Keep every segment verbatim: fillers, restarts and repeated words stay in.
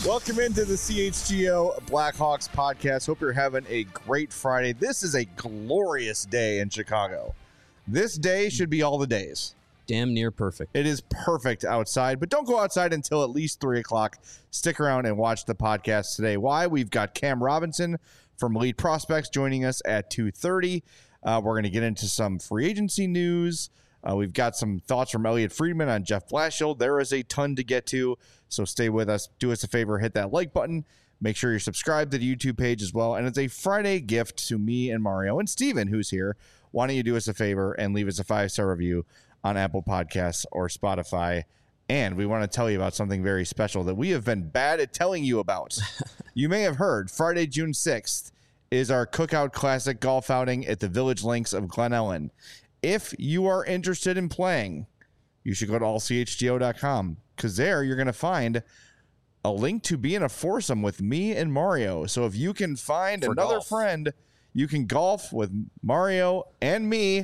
Welcome into the C H G O Blackhawks podcast. Hope you're having a great Friday. This is a glorious day in Chicago. This day should be all the days. Damn near perfect. It is perfect outside, but don't go outside until at least three o'clock. Stick around and watch the podcast today. Why? We've got Cam Robinson from Elite Prospects joining us at two thirty. Uh, we're going to get into some free agency news. Uh, we've got some thoughts from Elliot Friedman on Jeff Blashill. There is a ton to get to, so stay with us. Do us a favor, hit that like button. Make sure you're subscribed to the YouTube page as well. And it's a Friday gift to me and Mario and Steven, who's here. Why don't you do us a favor and leave us a five-star review on Apple Podcasts or Spotify. And we want to tell you about something very special that we have been bad at telling you about. You may have heard Friday, June sixth is our Cookout Classic golf outing at the Village Links of Glen Ellen. If you are interested in playing, you should go to all c h g o dot com because there you're going to find a link to be in a foursome with me and Mario. So if you can find For another golf. friend, you can golf with Mario and me.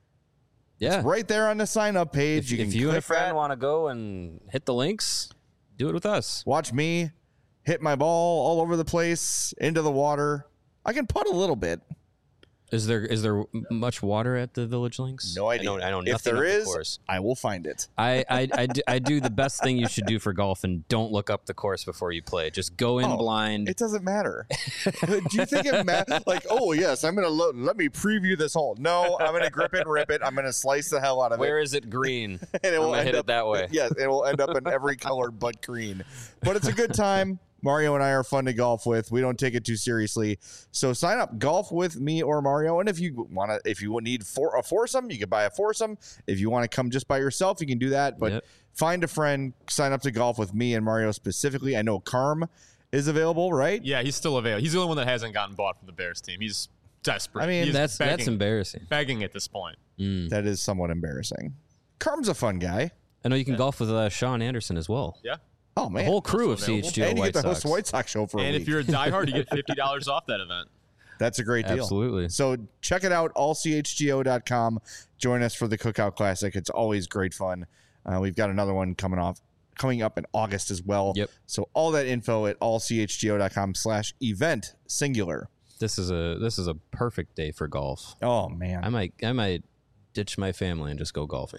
Yeah. It's right there on the sign-up page. If you you, can if you and a click friend that. want to go and hit the links, do it with us. Watch me hit my ball all over the place into the water. I can putt a little bit. Is there is there much water at the Village Links? No idea. I know, I know if nothing there of the is, course. I will find it. I, I, I, do, I do the best thing you should do for golf and don't look up the course before you play. Just go in Oh, blind. It doesn't matter. Do you think it matters? Like, oh, yes, I'm going to lo- let me preview this hole. No, I'm going to grip it and rip it. I'm going to slice the hell out of Where it. is it green? And it I'm will gonna end hit up it that way. Yes, it will end up in every color but green. But it's a good time. Mario and I are fun to golf with. We don't take it too seriously. So sign up, golf with me or Mario. And if you want to, if you need for a foursome, you can buy a foursome. If you want to come just by yourself, you can do that. But Yep. find a friend, sign up to golf with me and Mario specifically. I know Carm is available, right? Yeah, he's still available. He's the only one that hasn't gotten bought from the Bears team. He's desperate. I mean, He's That's begging, that's embarrassing. begging at this point. Mm. That is somewhat embarrassing. Carm's a fun guy. I know you can golf with uh, Sean Anderson as well. Yeah. Oh, man. The whole crew of Also C H G O And you White get to host Sox. the White Sox show for a And week. if you're a diehard, you get fifty dollars off that event. That's a great deal. Absolutely. So check it out, all c h g o dot com. Join us for the Cookout Classic. It's always great fun. Uh, we've got another one coming off, coming up in August as well. Yep. So all that info at all c h g o dot com slash event singular. This is a this is a perfect day for golf. Oh, man. I might I might ditch my family and just go golfing.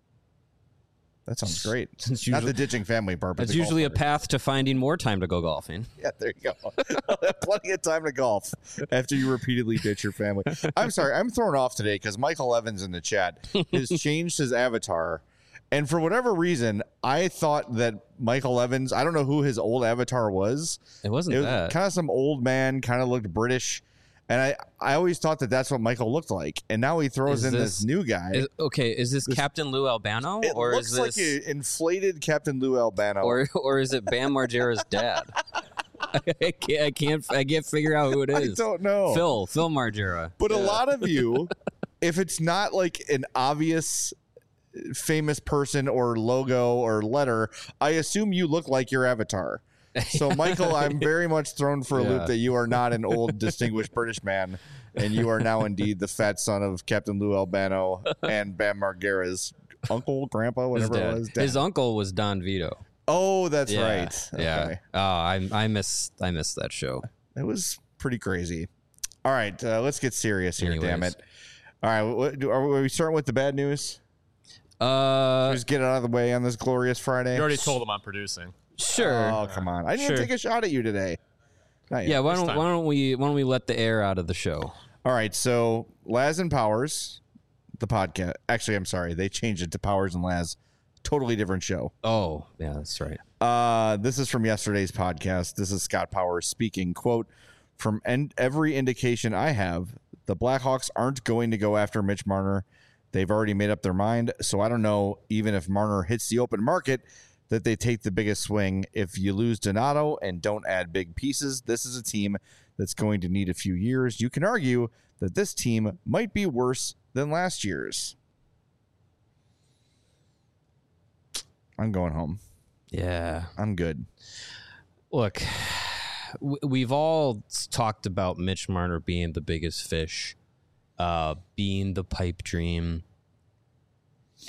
that sounds great. It's Not usually- the ditching family part, but That's the golf usually a part. path to finding more time to go golfing. Yeah, there you go. Plenty of time to golf after you repeatedly ditch your family. I'm sorry, I'm thrown off today because Michael Evans in the chat has changed his avatar. And for whatever reason, I thought that Michael Evans, I don't know who his old avatar was. It wasn't It was that. kind of some old man, kind of looked British. And I, I always thought that that's what Michael looked like. And now he throws Is in this, this- new guy. Is, okay, is this, Captain Lou Albano, it or looks is this, like an inflated Captain Lou Albano. or or is it Bam Margera's dad? I can't, I can't, I can't figure out who it I is. don't know. Phil, Phil Margera. But a lot of you, if it's not like an obvious famous person or logo or letter, I assume you look like your avatar. So, Michael, I'm very much thrown for a Yeah. loop that you are not an old, distinguished British man, and you are now indeed the fat son of Captain Lou Albano and Bam Margera's uncle, grandpa, His whatever dad. it was. Dad. His uncle was Don Vito. Oh, that's Yeah, right. Yeah. Okay. Oh, I I miss I miss that show. It was pretty crazy. All right, uh, let's get serious here, damn Anyways. it. All right, what, do- are we starting with the bad news? Uh, Just get it out of the way on this glorious Friday. You already told him I'm producing. sure. Oh, come on. I didn't Sure. take a shot at you today. Not yet. yeah. Why this don't time. Why don't we Why don't we let the air out of the show? All right. So, Laz and Powers, the podcast. Actually, I'm sorry. They changed it to Powers and Laz. Totally different show. Oh, yeah, that's right. Uh, this is from yesterday's podcast. This is Scott Powers speaking. Quote, from en- every indication I have, the Blackhawks aren't going to go after Mitch Marner. They've already made up their mind. So I don't know, even if Marner hits the open market, that they take the biggest swing. If you lose Donato and don't add big pieces, this is a team that's going to need a few years. You can argue that this team might be worse than last year's. I'm going home. Yeah. I'm good. Look, w- we've all talked about Mitch Marner being the biggest fish, uh, being the pipe dream,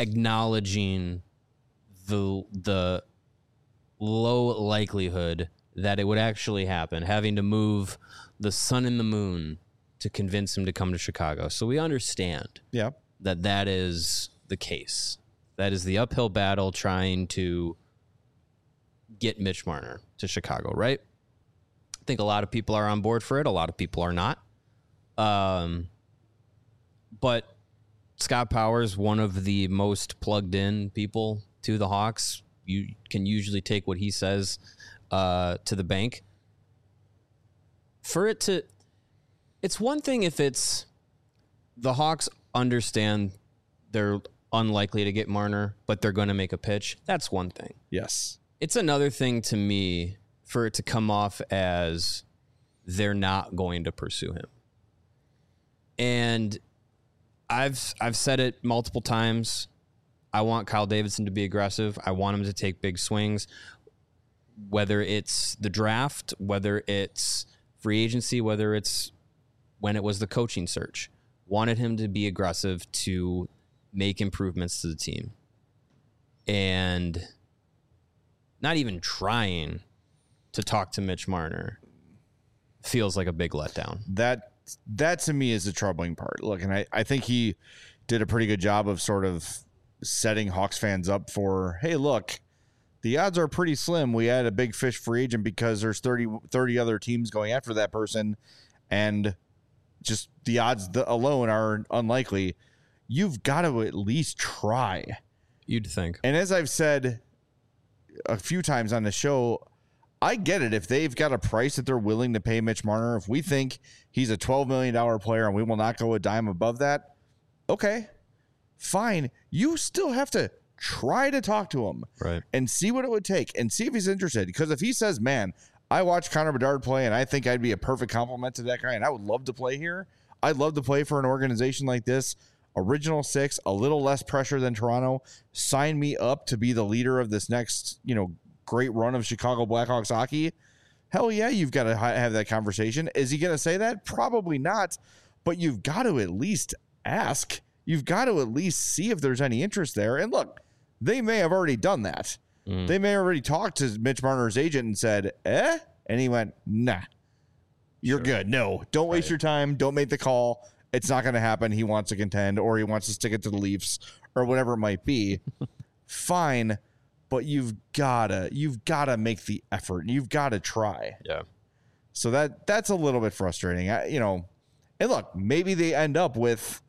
acknowledging the the low likelihood that it would actually happen, having to move the sun and the moon to convince him to come to Chicago. So we understand Yeah. that that is the case. That is the uphill battle trying to get Mitch Marner to Chicago, right? I think a lot of people are on board for it. A lot of people are not. Um, but Scott Powers, one of the most plugged in people to the Hawks, you can usually take what he says uh, to the bank. For it to, it's one thing if it's the Hawks understand they're unlikely to get Marner, but they're going to make a pitch. That's one thing. Yes. It's another thing to me for it to come off as they're not going to pursue him. And I've I've said it multiple times. I want Kyle Davidson to be aggressive. I want him to take big swings, whether it's the draft, whether it's free agency, whether it's when it was the coaching search. Wanted him to be aggressive to make improvements to the team. And not even trying to talk to Mitch Marner feels like a big letdown. That that to me is the troubling part. Look, and I, I think he did a pretty good job of sort of setting Hawks fans up for, hey, look, the odds are pretty slim. We had a big fish free agent because there's thirty, thirty other teams going after that person, and just the odds alone are unlikely. You've got to at least try. You'd think. And as I've said a few times on the show, I get it. If they've got a price that they're willing to pay Mitch Marner, if we think he's a twelve million dollars player and we will not go a dime above that, okay, fine. You still have to try to talk to him, right, and see what it would take and see if he's interested. Because if he says, man, I watched Connor Bedard play and I think I'd be a perfect compliment to that guy and I would love to play here. I'd love to play for an organization like this. Original six, a little less pressure than Toronto. Sign me up to be the leader of this next, you know, great run of Chicago Blackhawks hockey. Hell yeah, you've got to ha- have that conversation. Is he going to say that? Probably not, but you've got to at least ask. You've got to at least see if there's any interest there. And look, they may have already done that. Mm. They may have already talked to Mitch Marner's agent and said, eh? And he went, nah, you're sure. good. No, don't waste right. your time. Don't make the call. It's not going to happen. He wants to contend, or he wants to stick it to the Leafs, or whatever it might be. Fine, but you've gotta you've gotta make the effort. You've got to try. Yeah. So that that's a little bit frustrating. I, you know, and look, maybe they end up with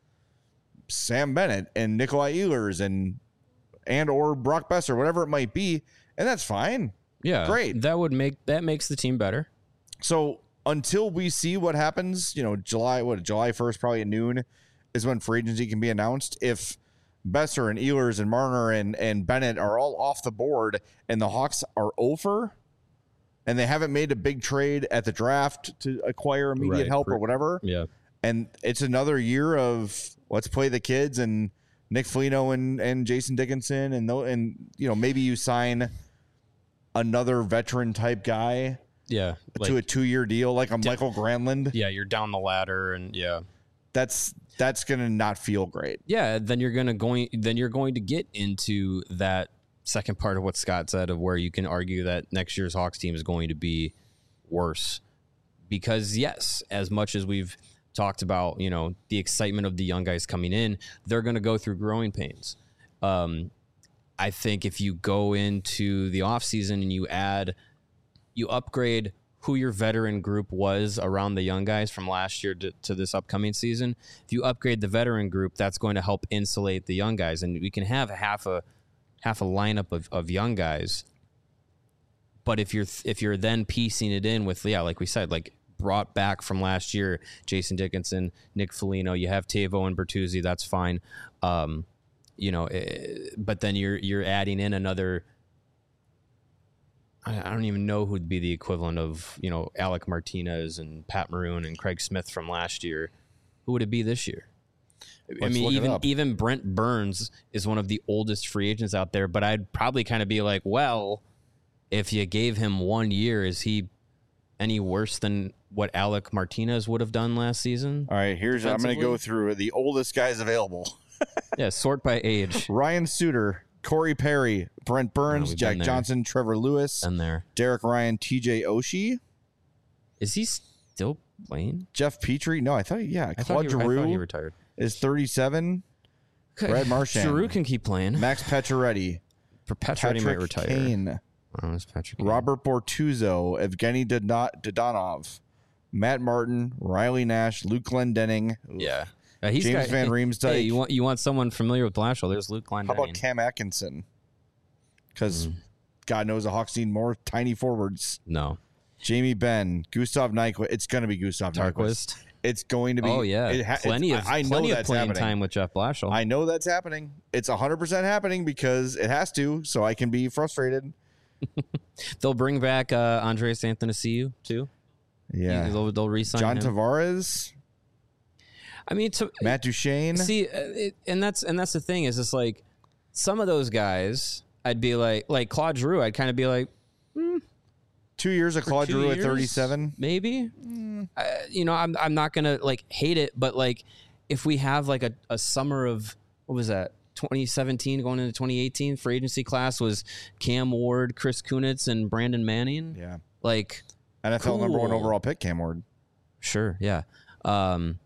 Sam Bennett and Nikolai Ehlers and and or Brock Besser, whatever it might be, and that's fine. Yeah, great. That would make that makes the team better. So until we see what happens, you know, July, what, July first, probably at noon is when free agency can be announced. If Besser and Ehlers and Marner and, and Bennett are all off the board and the Hawks are over and they haven't made a big trade at the draft to acquire immediate right. help or whatever. Yeah. And it's another year of let's play the kids and Nick Foligno and, and Jason Dickinson. And, and, you know, maybe you sign another veteran type guy. Yeah, like, to a two-year deal, like a d- Michael Granlund. Yeah, you're down the ladder, and yeah, that's that's gonna not feel great. Yeah, then you're gonna going then you're going to get into that second part of what Scott said, of where you can argue that next year's Hawks team is going to be worse, because yes, as much as we've talked about, you know, the excitement of the young guys coming in, they're going to go through growing pains. Um, I think if you go into the offseason and you add. You upgrade who your veteran group was around the young guys from last year to, to this upcoming season. If you upgrade the veteran group, that's going to help insulate the young guys, and we can have half a half a lineup of, of young guys. But if you're if you're then piecing it in with, yeah, like we said, like brought back from last year, Jason Dickinson, Nick Foligno, you have Tavo and Bertuzzi, that's fine. Um, you know, but then you're you're adding in another. I don't even know who'd be the equivalent of, you know, Alec Martinez and Pat Maroon and Craig Smith from last year. Who would it be this year? Let's I mean, even even Brent Burns is one of the oldest free agents out there, but I'd probably kind of be like, well, if you gave him one year, is he any worse than what Alec Martinez would have done last season? All right, here's I'm going to go through the oldest guys available. Yeah, sort by age. Ryan Suter, Corey Perry, Brent Burns, we've Jack been there. Johnson, Trevor Lewis, And there. Derek Ryan, T J Oshie, Is he still playing? Jeff Petrie. No, I thought, yeah, I Claude thought, he, I thought he Giroux retired. is thirty-seven. Brad Marchand. Giroux can keep playing. Max Pacioretty, Perpetuity might Patrick retire. Kane, Oh, it's Patrick Kane. Robert Bortuzzo, Evgeny Dodon- Dodonov, Matt Martin, Riley Nash, Luke Glendenning. Yeah. Uh, he's James got, Van Riemsdyk. Hey, you want you want someone familiar with Blashill? There's Luke Klein. How about Cam Atkinson? Because Mm. God knows the Hawks need more tiny forwards. No. Jamie Benn, Gustav Nyquist. It's going to be Gustav Nyquist. Tarquist. It's going to be. Oh yeah. It ha- plenty it's- of I, I know plenty of that's playing happening. time with Jeff Blashill. I know that's happening. It's one hundred percent happening because it has to, so I can be frustrated. They'll bring back uh, Andreas Anthony too. Yeah. They'll, they'll re-sign John him. Tavares, I mean, to, Matt Duchene. see, uh, it, and that's and that's the thing is, it's like some of those guys, I'd be like, like Claude Giroux, I'd kind of be like, Two years of for Claude two Giroux at years, thirty-seven. maybe. Uh, you know, I'm I'm not gonna like hate it, but like if we have like a, a summer of what was that? twenty seventeen going into twenty eighteen free agency class was Cam Ward, Chris Kunitz, and Brandon Manning. Yeah. Like, N F L number one Cool. overall pick, Cam Ward. sure, yeah. Um,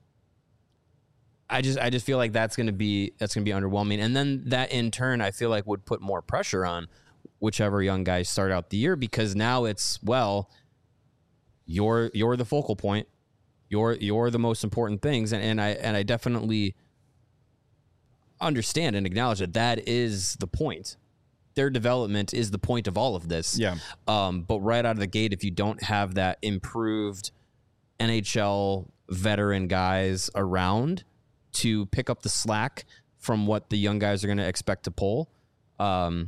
I just I just feel like that's gonna be that's gonna be underwhelming, and then that in turn I feel like would put more pressure on whichever young guys start out the year, because now it's, well, you're you're the focal point, you're you're the most important things, and, and I and I definitely understand and acknowledge that that is the point. Their development is the point of all of this. Yeah. Um, but right out of the gate, if you don't have that improved N H L veteran guys around to pick up the slack from what the young guys are going to expect to pull, um,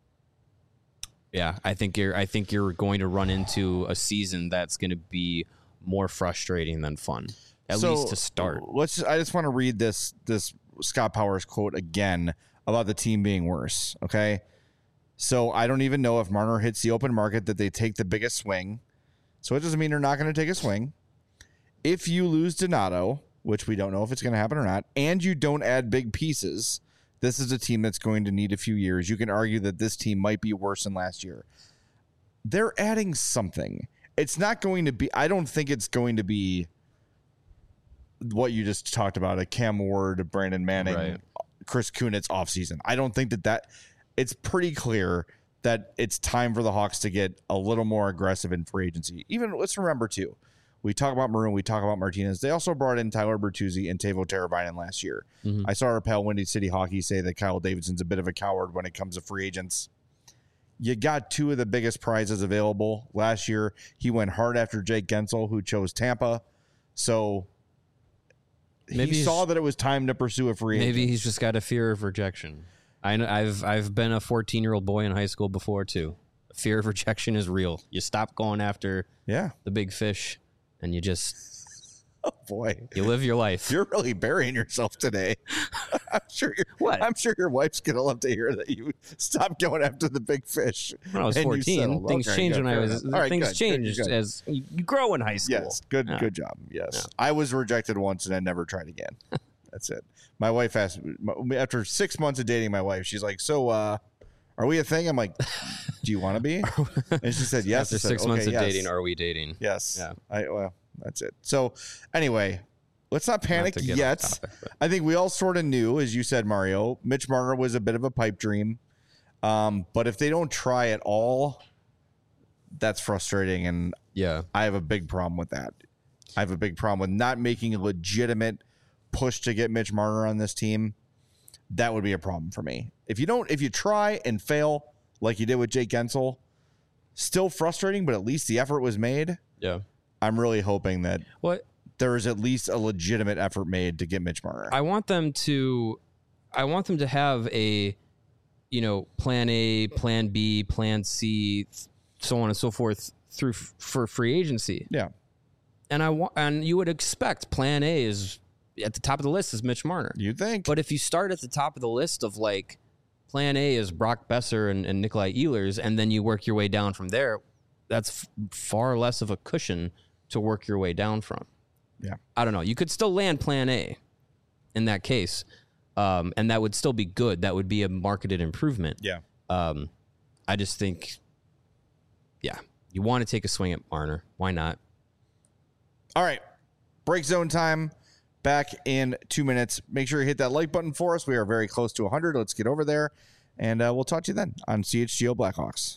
yeah, I think you're. I think you're going to run into a season that's going to be more frustrating than fun, at So, least to start. Let's. I just want to read this this Scott Powers quote again about the team being worse. Okay. So I don't even know if Marner hits the open market that they take the biggest swing. So it doesn't mean they're not going to take a swing. If you lose Donato, which we don't know if it's going to happen or not, and you don't add big pieces, this is a team that's going to need a few years. You can argue that this team might be worse than last year. They're adding something. It's not going to be, I don't think it's going to be what you just talked about, a Cam Ward, Brandon Manning, Right. Chris Kunitz offseason. I don't think that that, it's pretty clear that it's time for the Hawks to get a little more aggressive in free agency. Even, let's remember too, we talk about Maroon, we talk about Martinez. They also brought in Tyler Bertuzzi and Teuvo Teravainen last year. Mhm. I saw our pal Windy City Hockey say that Kyle Davidson's a bit of a coward when it comes to free agents. You got two of the biggest prizes available last year. He went hard after Jake Gensel, who chose Tampa. So Maybe he he's- saw that it was time to pursue a free agent. Maybe he's just got a fear of rejection. I know, I've I've been a fourteen year old boy in high school before too. Fear of rejection is real. You stop going after Yeah. the big fish, and you just Oh boy. you live your life. You're really burying yourself today. I'm sure your What? I'm sure your wife's gonna love to hear that you stopped going after the big fish. When I was and you fourteen, settled. things Okay, changed good, when I fair was. enough. All right, things good, good, changed good. as you, you grow in high school. Yes, good, Yeah. good job. Yes, Yeah. I was rejected once and I never tried again. That's it. My wife asked my- after six months of dating my wife. She's like, "So, uh, are we a thing?" I'm like, "Do you want to be?" And she said, "Yes." After I said, six months "Okay, of yes." dating, are we dating? Yes. Yeah. I well, that's it. So, anyway, let's not panic to get off yet. topic, but- I think we all sort of knew, as you said, Mario. Mitch Marner was a bit of a pipe dream, um, but if they don't try at all, that's frustrating, and Yeah. I have a big problem with that. I have a big problem with not making a legitimate push to get Mitch Marner on this team. That would be a problem for me. If you don't, if you try and fail like you did with Jake Gensel, still frustrating, but at least the effort was made. Yeah. I'm really hoping that What there is at least a legitimate effort made to get Mitch Marner. I want them to, I want them to have a, you know, plan A, plan B, plan C, so on and so forth through f- for free agency. yeah. And I want, and you would expect plan A is at the top of the list is Mitch Marner. You'd think. But if you start at the top of the list of like plan A is Brock Besser and, and Nikolai Ehlers, and then you work your way down from there, that's f- far less of a cushion to work your way down from. Yeah. I don't know. You could still land plan A in that case. Um, and that would still be good. That would be a marketed improvement. Yeah. Um, I just think, yeah, you want to take a swing at Marner. Why not? All right. Break zone time. Back in two minutes. Make sure you hit that like button for us. We are very close to one hundred. Let's get over there. And uh, we'll talk to you then on C H G O Blackhawks.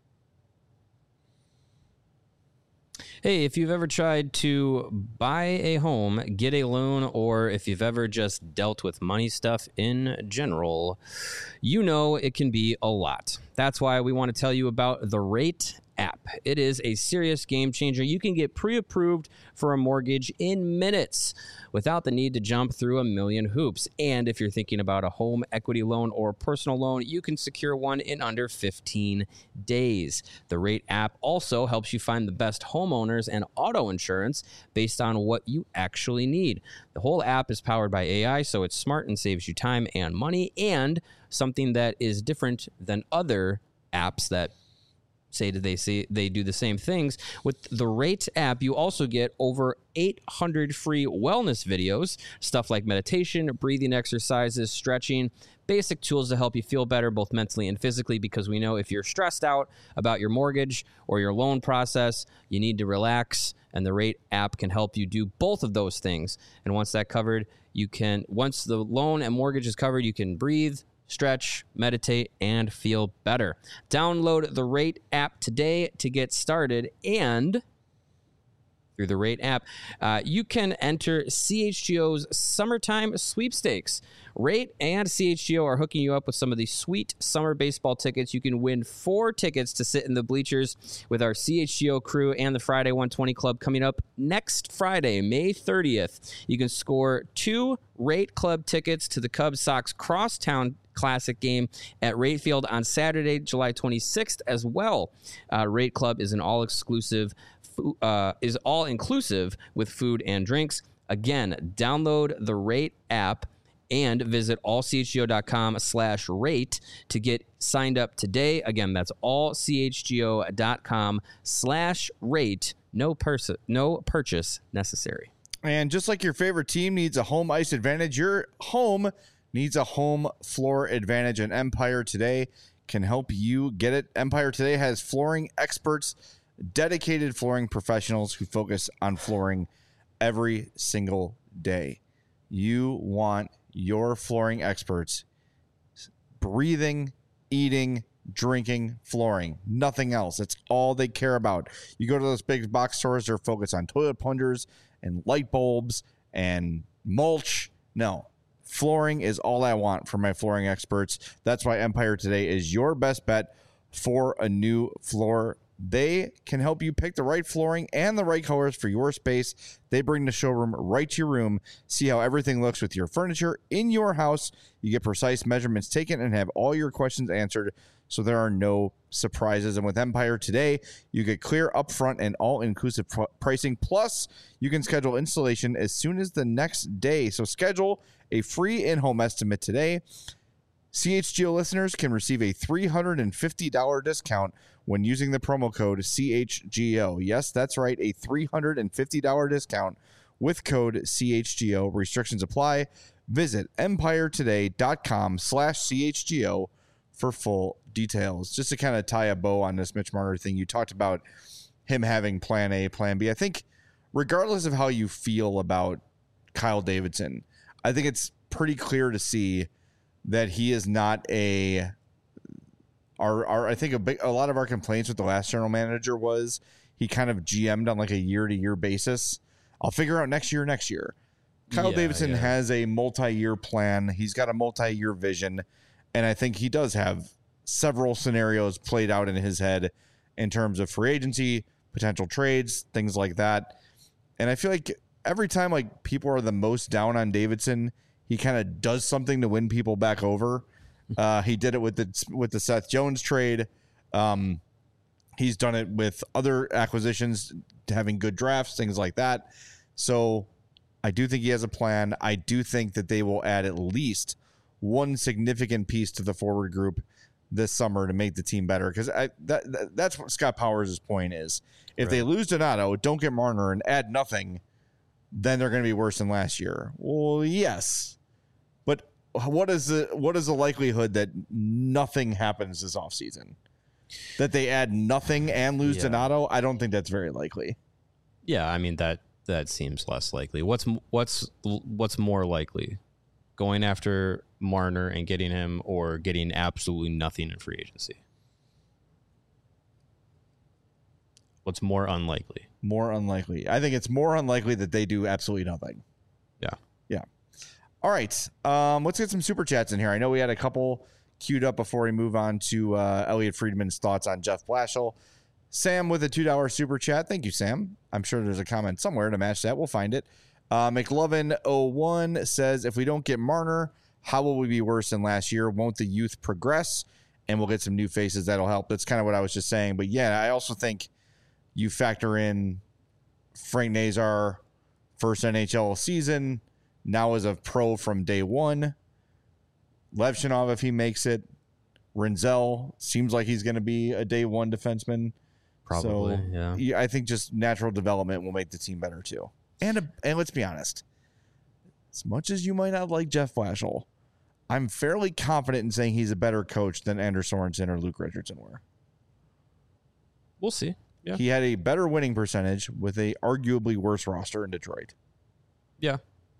Hey, if you've ever tried to buy a home, get a loan, or if you've ever just dealt with money stuff in general, you know it can be a lot. That's why we want to tell you about the Rate app. It is a serious game changer. You can get pre-approved for a mortgage in minutes without the need to jump through a million hoops. And if you're thinking about a home equity loan or personal loan, you can secure one in under fifteen days. The Rate app also helps you find the best homeowners and auto insurance based on what you actually need. The whole app is powered by A I, so it's smart and saves you time and money, and something that is different than other apps that say that they say they do the same things. With the Rate app, you also get over eight hundred free wellness videos, stuff like meditation, breathing exercises, stretching, basic tools to help you feel better both mentally and physically, because we know if you're stressed out about your mortgage or your loan process, you need to relax, and the Rate app can help you do both of those things. And once that covered, you can once the loan and mortgage is covered, you can breathe, stretch, meditate, and feel better. Download the Rate app today to get started, and through the Rate app, uh, you can enter C H G O's Summertime Sweepstakes. Rate and C H G O are hooking you up with some of these sweet summer baseball tickets. You can win four tickets to sit in the bleachers with our C H G O crew and the Friday one twenty Club coming up next Friday, May thirtieth. You can score two Rate Club tickets to the Cubs Sox Crosstown Classic game at Rate Field on Saturday, July twenty-sixth as well. Uh, Rate Club is an all-exclusive, uh, is all-inclusive with food and drinks. Again, download the Rate app and visit allchgo.com slash rate to get signed up today. Again, that's allchgo.com slash rate. No pers- no purchase necessary. And just like your favorite team needs a home ice advantage, your home needs a home floor advantage, and Empire Today can help you get it. Empire Today has flooring experts, dedicated flooring professionals who focus on flooring every single day. You want your flooring experts breathing, eating, drinking flooring, nothing else. It's all they care about. You go to those big box stores, they're focused on toilet plungers and light bulbs and mulch. No. Flooring is all I want from my flooring experts. That's why Empire Today is your best bet for a new floor. They can help you pick the right flooring and the right colors for your space. They bring the showroom right to your room. See how everything looks with your furniture in your house. You get precise measurements taken and have all your questions answered, so there are no surprises. And with Empire Today, you get clear upfront and all-inclusive pr- pricing. Plus, you can schedule installation as soon as the next day. So schedule a free in-home estimate today. C H G O listeners can receive a three hundred fifty dollars discount when using the promo code C H G O. Yes, that's right, a three hundred fifty dollars discount with code C H G O. Restrictions apply. Visit empiretoday.com slash CHGO for full details. Just to kind of tie a bow on this Mitch Marner thing, you talked about him having plan A, plan B. I think regardless of how you feel about Kyle Davidson, I think it's pretty clear to see that he is not a our, our I think a big a lot of our complaints with the last general manager was he kind of G M'd on like a year to year basis. I'll figure out next year, next year. Kyle Yeah, Davidson yeah. has a multi-year plan. He's got a multi-year vision, and I think he does have several scenarios played out in his head in terms of free agency, potential trades, things like that. And I feel like every time like people are the most down on Davidson, he kind of does something to win people back over. Uh, he did it with the with the Seth Jones trade. Um, he's done it with other acquisitions, having good drafts, things like that. So I do think he has a plan. I do think that they will add at least one significant piece to the forward group this summer to make the team better. Because I that, that that's what Scott Powers' point is. If Right. they lose Donato, don't get Marner, and add nothing, then they're going to be worse than last year. Well, yes. But what is the what is the likelihood that nothing happens this offseason? That they add nothing and lose Yeah. Donato? I don't think that's very likely. Yeah, I mean that that seems less likely. What's what's what's more likely? Going after Marner and getting him, or getting absolutely nothing in free agency? What's more unlikely? More unlikely. I think it's more unlikely that they do absolutely nothing. Yeah. Yeah. All right. Um, let's get some super chats in here. I know we had a couple queued up before we move on to uh, Elliot Friedman's thoughts on Jeff Blashill. Sam with a two dollar super chat. Thank you, Sam. I'm sure there's a comment somewhere to match that. We'll find it. Uh, McLovin oh one says, if we don't get Marner, how will we be worse than last year? Won't the youth progress? And we'll get some new faces that'll help. That's kind of what I was just saying. But yeah, I also think you factor in Frank Nazar, first N H L season, now as a pro from day one. Levchinov, if he makes it. Renzel seems like he's going to be a day one defenseman. Probably, so, yeah. I think just natural development will make the team better too. And a, and let's be honest, as much as you might not like Jeff Blashill, I'm fairly confident in saying he's a better coach than Anders Sorensen or Luke Richardson were. We'll see. Yeah. He had a better winning percentage with a arguably worse roster in Detroit. Yeah.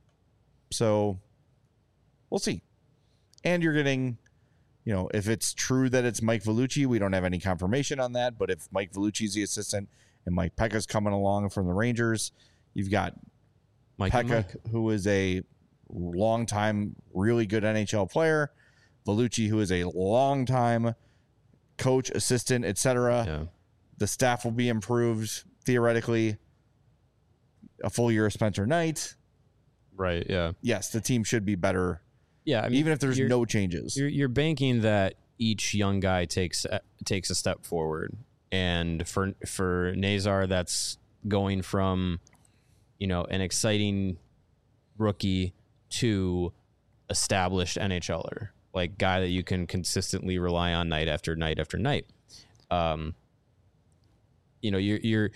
So we'll see. And you're getting, you know, if it's true that it's Mike Vellucci, we don't have any confirmation on that. But if Mike Vellucci's the assistant and Mike Pekka's coming along from the Rangers, you've got Mike Pekka, who is a longtime, really good N H L player. Vellucci, who is a longtime coach, assistant, et cetera. Yeah. The staff will be improved, theoretically. A full year of Spencer Knight. Right, yeah. Yes, the team should be better, Yeah, I mean, even if there's you're- no changes. You're, you're banking that each young guy takes uh, takes a step forward, and for for Nazar, that's going from, you know, an exciting rookie to established NHLer, like guy that you can consistently rely on night after night after night. Um, you know, you're you're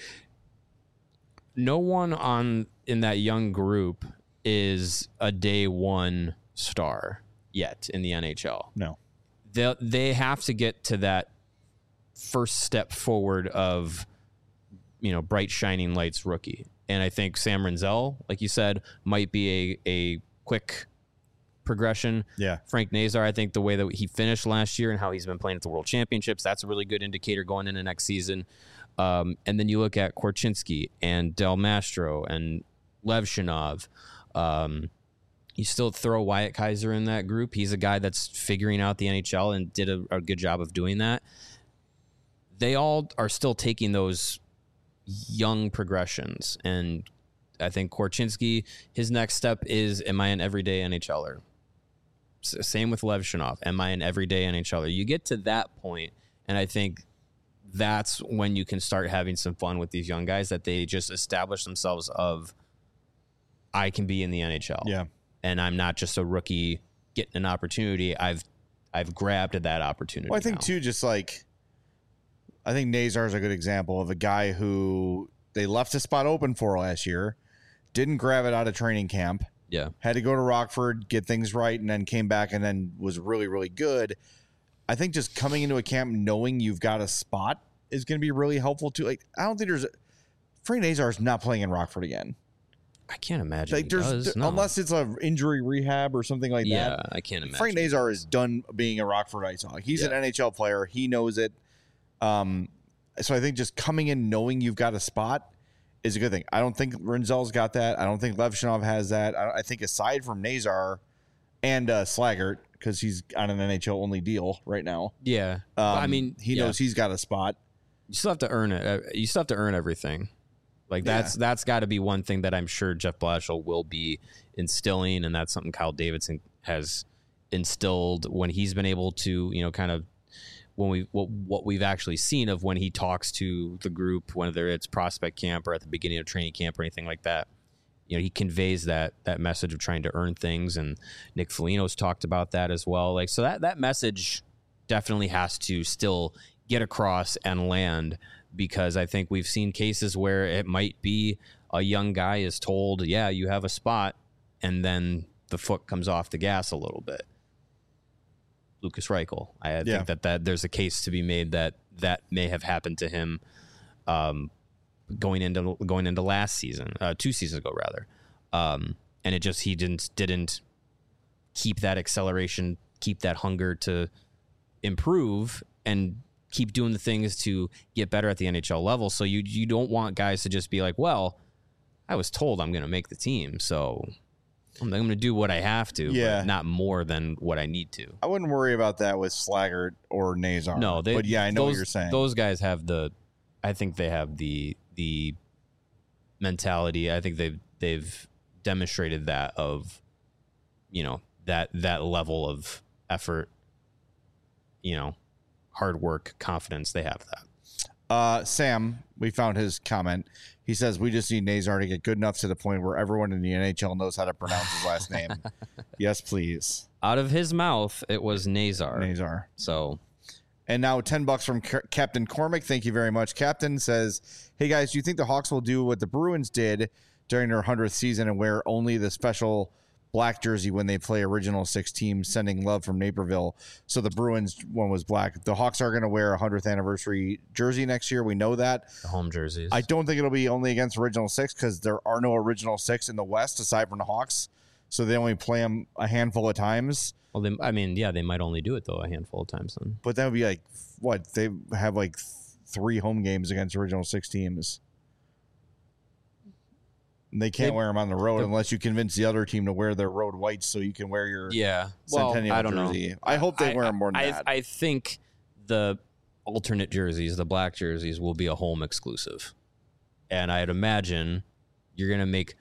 no one on in that young group is a day one star yet in the N H L. No. They they have to get to that first step forward of, you know, bright shining lights rookie. And I think Sam Renzel, like you said, might be a a quick progression. Yeah. Frank Nazar, I think the way that he finished last year and how he's been playing at the World Championships, that's a really good indicator going into next season. Um, and then you look at Korchinski and Del Mastro and Levchinov. Um, you still throw Wyatt Kaiser in that group. He's a guy that's figuring out the N H L and did a, a good job of doing that. They all are still taking those young progressions. And I think Korchinski, his next step is, am I an everyday NHLer? S- same with Levchinov. Am I an everyday NHLer? You get to that point, and I think that's when you can start having some fun with these young guys, that they just establish themselves of, I can be in the N H L. Yeah. And I'm not just a rookie getting an opportunity. I've I've grabbed at that opportunity. Well, I think now. too, just like, I think Nazar is a good example of a guy who they left a spot open for last year, didn't grab it out of training camp, Yeah. had to go to Rockford, get things right, and then came back and then was really, really good. I think just coming into a camp knowing you've got a spot is going to be really helpful too. Like, I don't think there's Frank Nazar is not playing in Rockford again. I can't imagine. Like, he there's does. th- No. unless it's a injury rehab or something like yeah, that. I can't imagine. Frank Nazar is done being a Rockford Ice Hawk. He's an Yeah. N H L player. He knows it. Um, so I think just coming in knowing you've got a spot is a good thing. I don't think Renzel's got that. I don't think Levchinov has that. I, I think aside from Nazar and uh, Slaggert, because he's on an N H L only deal right now. Yeah. Um, I mean, he yeah. knows he's got a spot. You still have to earn it. Uh, You still have to earn everything. Like that's that's got to be one thing that I'm sure Jeff Blashill will be instilling, and that's something Kyle Davidson has instilled when he's been able to, you know, kind of when we what, what we've actually seen of when he talks to the group, whether it's prospect camp or at the beginning of training camp or anything like that. You know, he conveys that that message of trying to earn things, and Nick Foligno's talked about that as well. Like, so that that message definitely has to still get across and land, because I think we've seen cases where it might be a young guy is told, yeah, you have a spot, and then the foot comes off the gas a little bit. Lucas Reichel. I Yeah. think that, that there's a case to be made that that may have happened to him um, going into going into last season, uh, two seasons ago rather, um, and it just he didn't didn't keep that acceleration, keep that hunger to improve, and keep doing the things to get better at the N H L level. So you you don't want guys to just be like, well, I was told I'm going to make the team, so I'm going to do what I have to, Yeah. but not more than what I need to. I wouldn't worry about that with Slaggert or Nazar. No, they, but yeah, I know those, what you're saying. Those guys have the, I think they have the the mentality. I think they've they've demonstrated that of, you know, that that level of effort, you know, hard work, confidence. They have that. Uh, Sam, we found his comment. He says, we just need Nazar to get good enough to the point where everyone in the N H L knows how to pronounce his last name. Yes, please. Out of his mouth, it was Nazar. Nazar. So, and now ten bucks from C- Captain Cormick. Thank you very much. Captain says, hey guys, do you think the Hawks will do what the Bruins did during their hundredth season and wear only the special black jersey when they play original six teams, sending love from Naperville? So the Bruins one was black. The Hawks are going to wear a hundredth anniversary jersey next year. We know that. the home jerseys. I don't think it'll be only against original six because there are no original six in the West aside from the Hawks. So they only play them a handful of times. Well, they, I mean, yeah, they might only do it though a handful of times then. But that would be like, what? They have like th- three home games against original six teams. And they can't They- wear them on the road the- unless you convince the other team to wear their road whites so you can wear your Yeah, well, Centennial I don't jersey. know. I hope they I- wear them more than I, that. I think the alternate jerseys, the black jerseys, will be a home exclusive, and I'd imagine you're gonna make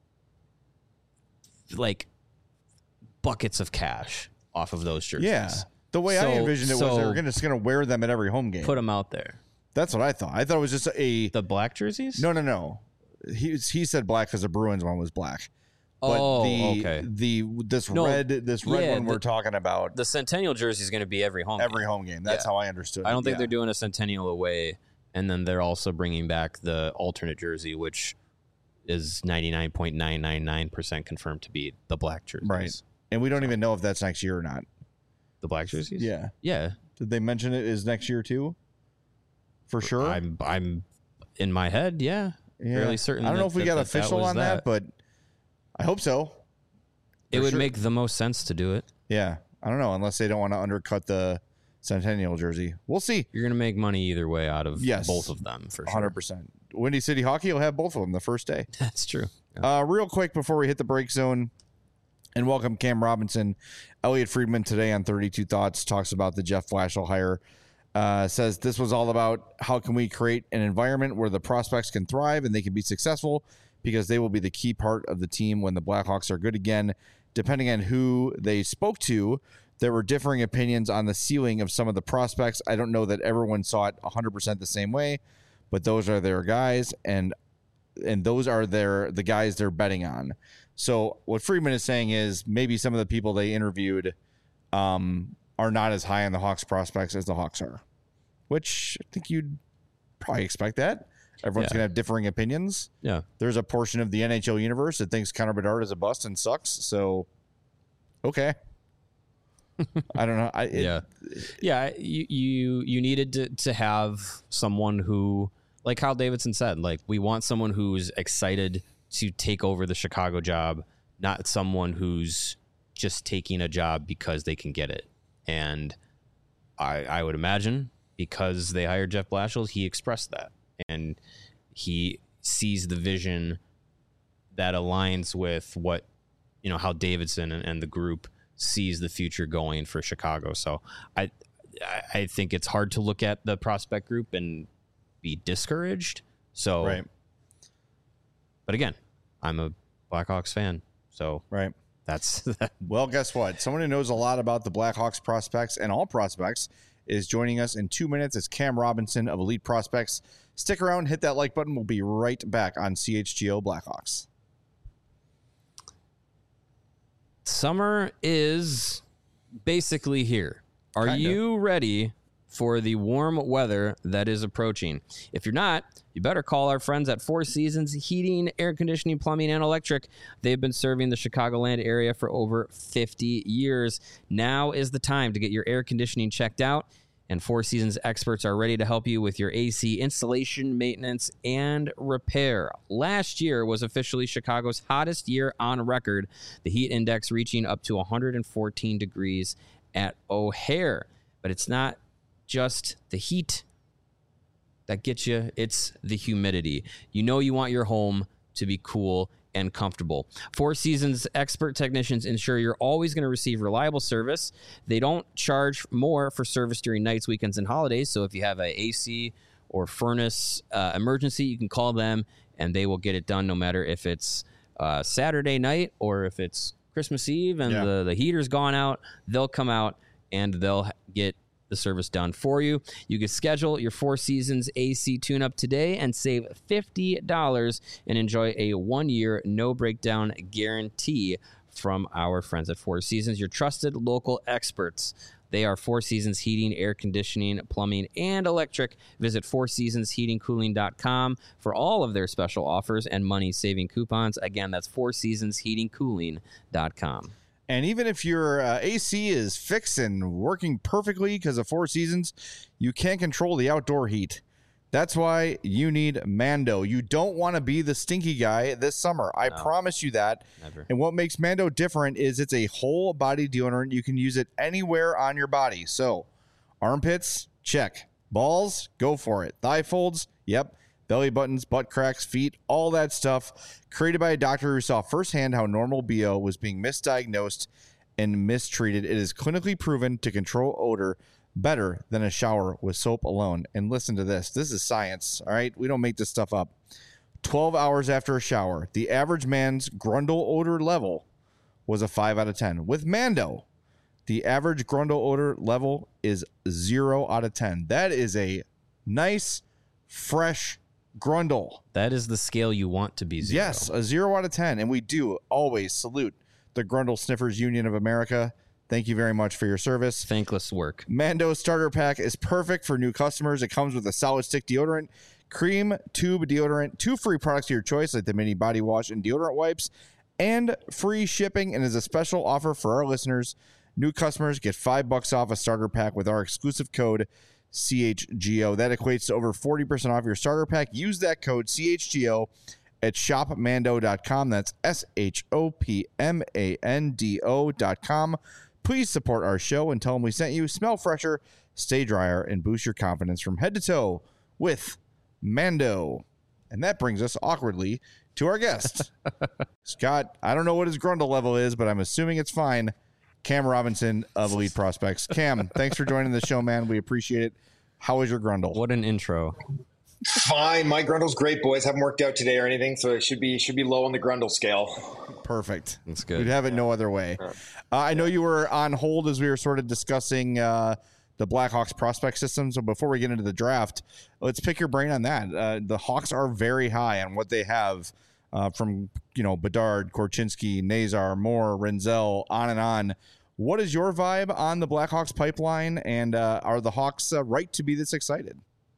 like buckets of cash off of those jerseys. yeah. The way I So- envisioned it was they so- were gonna, just going to wear them at every home game. Put them out there. That's what I thought. I thought it was just a The black jerseys? no, no, no. He he said black because the Bruins one was black. But oh, the, okay. The this No, red this red yeah, one we're the- talking about The Centennial jersey is going to be every home. every game. home game. That's Yeah. how I understood. I don't it. think Yeah. they're doing a Centennial away, and then they're also bringing back the alternate jersey, which is ninety-nine point nine nine nine percent confirmed to be the black jerseys. Right. And we don't even know if that's next year or not. The black jerseys? Yeah. Yeah. Did they mention it is next year too? For sure. I'm I'm in my head, yeah. yeah. fairly certain I don't know that- if we that- got that that official was on that. that. but I hope so. It For would sure. make the most sense to do it. Yeah. I don't know, unless they don't want to undercut the Centennial jersey. We'll see. You're going to make money either way out of Yes. both of them for one hundred sure. percent. Windy City Hockey will have both of them the first day. That's true. Yeah. Uh, real quick before we hit the break zone, and welcome Cam Robinson. Elliot Friedman today on thirty-two Thoughts talks about the Jeff Blashill hire. Uh, says this was all about how can we create an environment where the prospects can thrive and they can be successful because they will be the key part of the team when the Blackhawks are good again. Depending on who they spoke to, there were differing opinions on the ceiling of some of the prospects. I don't know that everyone saw it one hundred percent the same way, but those are their guys, and and those are their the guys they're betting on. So what Friedman is saying is maybe some of the people they interviewed um, are not as high on the Hawks prospects as the Hawks are, which I think you'd probably expect that. Everyone's Yeah. going to have differing opinions. Yeah. There's a portion of the N H L universe that thinks Connor Bedard is a bust and sucks. So, okay. I don't know. I, it, yeah. Yeah. You, you, you needed to, to have someone who, like Kyle Davidson said, like, we want someone who's excited to take over the Chicago job, not someone who's just taking a job because they can get it. And I, I would imagine because they hired Jeff Blashill, he expressed that. And he sees the vision that aligns with what, you know, how Davidson and, and the group sees the future going for Chicago. So I, I- I think it's hard to look at the prospect group and be discouraged. So, right, but again, I'm a Blackhawks fan. So right. that's, Well, guess what? Someone who knows a lot about the Blackhawks prospects and all prospects is joining us in two minutes. It's Cam Robinson of Elite Prospects. Stick around, hit that like button. We'll be right back on C H G O Blackhawks. summer is basically here. Are Kinda. you ready for the warm weather that is approaching. If you're not, you better call our friends at Four Seasons Heating, Air Conditioning, Plumbing, and Electric. They've been serving the Chicagoland area for over fifty years. Now is the time to get your air conditioning checked out, and Four Seasons experts are ready to help you with your A C installation, maintenance, and repair. Last year was officially Chicago's hottest year on record, the heat index reaching up to one hundred fourteen degrees at O'Hare. But it's not just the heat that gets you, it's the humidity. You know you want your home to be cool and comfortable. Four Seasons expert technicians ensure you're always going to receive reliable service. They don't charge more for service during nights, weekends, and holidays. So if you have a A C or furnace uh, emergency, you can call them and they will get it done no matter if it's uh, Saturday night or if it's Christmas Eve and yeah. the, the heater's gone out. They'll come out and they'll get the service done for you. You can schedule your Four Seasons A C tune-up today and save fifty dollars and enjoy a one-year no-breakdown guarantee from our friends at Four Seasons, your trusted local experts. They are Four Seasons Heating, Air Conditioning, Plumbing, and Electric. Visit four seasons heating cooling dot com for all of their special offers and money-saving coupons. Again, that's four seasons heating cooling dot com. And even if your uh, A C is fixed and working perfectly because of Four Seasons, you can't control the outdoor heat. That's why you need Mando. You don't want to be the stinky guy this summer. I no, promise you that. Never. And what makes Mando different is it's a whole body deodorant. You can use it anywhere on your body. So armpits, check. Balls, go for it. Thigh folds, yep. Belly buttons, butt cracks, feet, all that stuff. Created by a doctor who saw firsthand how normal B O was being misdiagnosed and mistreated. It is clinically proven to control odor better than a shower with soap alone. And listen to this. This is science, all right? We don't make this stuff up. twelve hours after a shower, the average man's Grundle odor level was a five out of ten. With Mando, the average Grundle odor level is zero out of ten. That is a nice, fresh Grundle. That is the scale you want to be zero. Yes, a zero out of ten. And we do always salute the Grundle Sniffers Union of America. Thank you very much for your service. Thankless work. Mando starter pack is perfect for new customers. It comes with a solid stick deodorant, cream tube deodorant, two free products of your choice like the mini body wash and deodorant wipes, and free shipping. And as a special offer for our listeners, new customers get five bucks off a starter pack with our exclusive code C H G O. That equates to over forty percent off your starter pack. Use that code C H G O at shop mando dot com. That's S H O P M A N D O dot com. Please support our show and tell them we sent you. Smell fresher, stay drier, and boost your confidence from head to toe with Mando. And that brings us awkwardly to our guest. Scott, I don't know what his Grundle level is, but I'm assuming it's fine. Cam Robinson of Elite Prospects. Cam, thanks for joining the show, man. We appreciate it. How is your Grundle? What an intro. Fine. My Grundle's great, boys. Haven't worked out today or anything, so it should be should be low on the Grundle scale. Perfect. That's good. We'd have it yeah. no other way. Uh, I know you were on hold as we were sort of discussing uh, the Blackhawks prospect system. So before we get into the draft, let's pick your brain on that. Uh, the Hawks are very high on what they have uh, from, you know, Bedard, Korchinski, Nazar, Moore, Renzel, on and on. What is your vibe on the Blackhawks pipeline, and uh, are the Hawks uh, right to be this excited?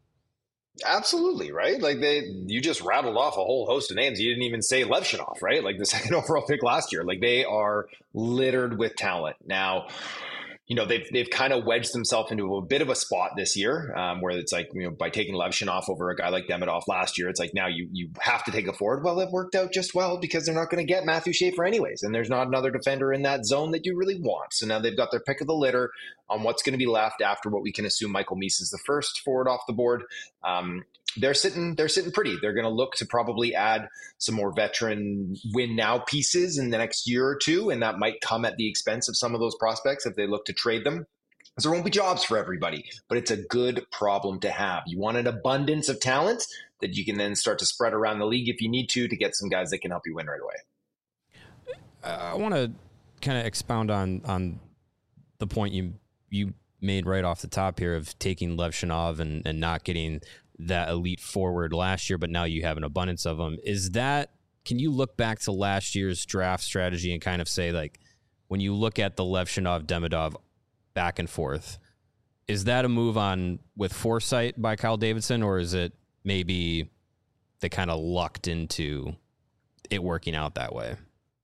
Absolutely, right? Like they, you just rattled off a whole host of names. You didn't even say Levshunov, right? Like the second overall pick last year. Like they are littered with talent. Now, you know, they've they've kind of wedged themselves into a bit of a spot this year, um, where it's like, you know, by taking Levshunov over a guy like Demidov last year, it's like now you you have to take a forward. Well, it worked out just well because they're not going to get Matthew Schaefer anyways, and there's not another defender in that zone that you really want. So now they've got their pick of the litter on what's going to be left after what we can assume Michael Meese is the first forward off the board. Um, they're sitting they're sitting pretty. They're going to look to probably add some more veteran win now pieces in the next year or two, and that might come at the expense of some of those prospects if they look to trade them. Because there won't be jobs for everybody, but it's a good problem to have. You want an abundance of talent that you can then start to spread around the league if you need to, to get some guys that can help you win right away. Uh, I want to kind of expound on on the point you you made right off the top here of taking Levshunov and, and not getting that elite forward last year, but now you have an abundance of them. Is that, can you look back to last year's draft strategy and kind of say, like, when you look at the Levshunov, Demidov back and forth, Is that a move on with foresight by Kyle Davidson, or is it maybe they kind of lucked into it working out that way?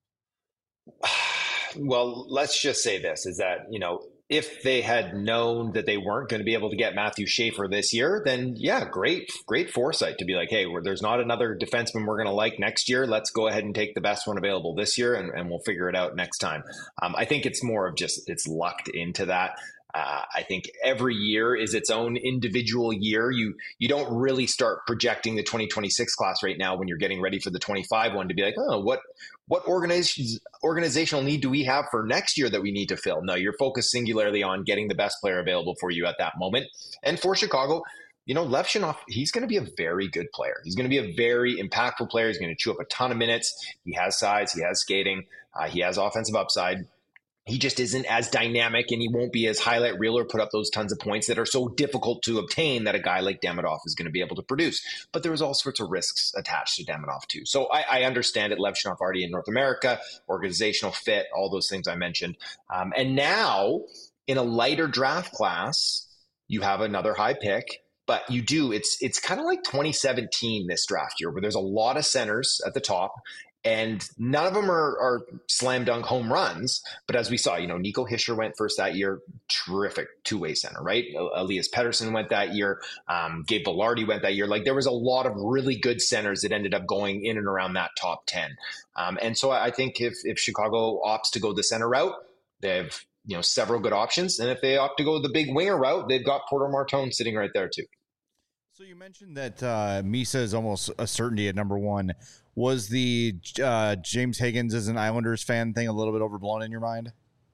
Well, let's just say this is that, you know, if they had known that they weren't going to be able to get Matthew Schaefer this year, then yeah, great, great foresight to be like, hey, there's not another defenseman we're going to like next year. Let's go ahead and take the best one available this year, and, and we'll figure it out next time. Um, I think it's more of just it's lucked into that. Uh, I think every year is its own individual year. You you don't really start projecting the twenty twenty-six class right now when you're getting ready for the twenty-five one to be like, oh, what what organizations organizational need do we have for next year that we need to fill? No, you're focused singularly on getting the best player available for you at that moment. And for Chicago, you know, Levshunov, he's going to be a very good player. He's going to be a very impactful player. He's going to chew up a ton of minutes. He has size. He has skating. Uh, he has offensive upside. He just isn't as dynamic, and he won't be as highlight reel or put up those tons of points that are so difficult to obtain that a guy like Demidov is going to be able to produce. But there was all sorts of risks attached to Demidov too. So I, I understand it. Levshunov already in North America, organizational fit, all those things I mentioned. Um, and now in a lighter draft class, you have another high pick. But you do, it's it's kind of like twenty seventeen this draft year, where there's a lot of centers at the top. And none of them are, are slam dunk home runs. But as we saw, you know, Nico Hischier went first that year. Terrific two-way center, right? Elias Pettersson went that year. Um, Gabe Velarde went that year. Like, there was a lot of really good centers that ended up going in and around that top ten. Um, and so I think if, if Chicago opts to go the center route, they have, you know, several good options. And if they opt to go the big winger route, they've got Porter Martone sitting right there too. So you mentioned that uh, Misa is almost a certainty at number one. Was the uh, James Higgins as an Islanders fan thing a little bit overblown in your mind?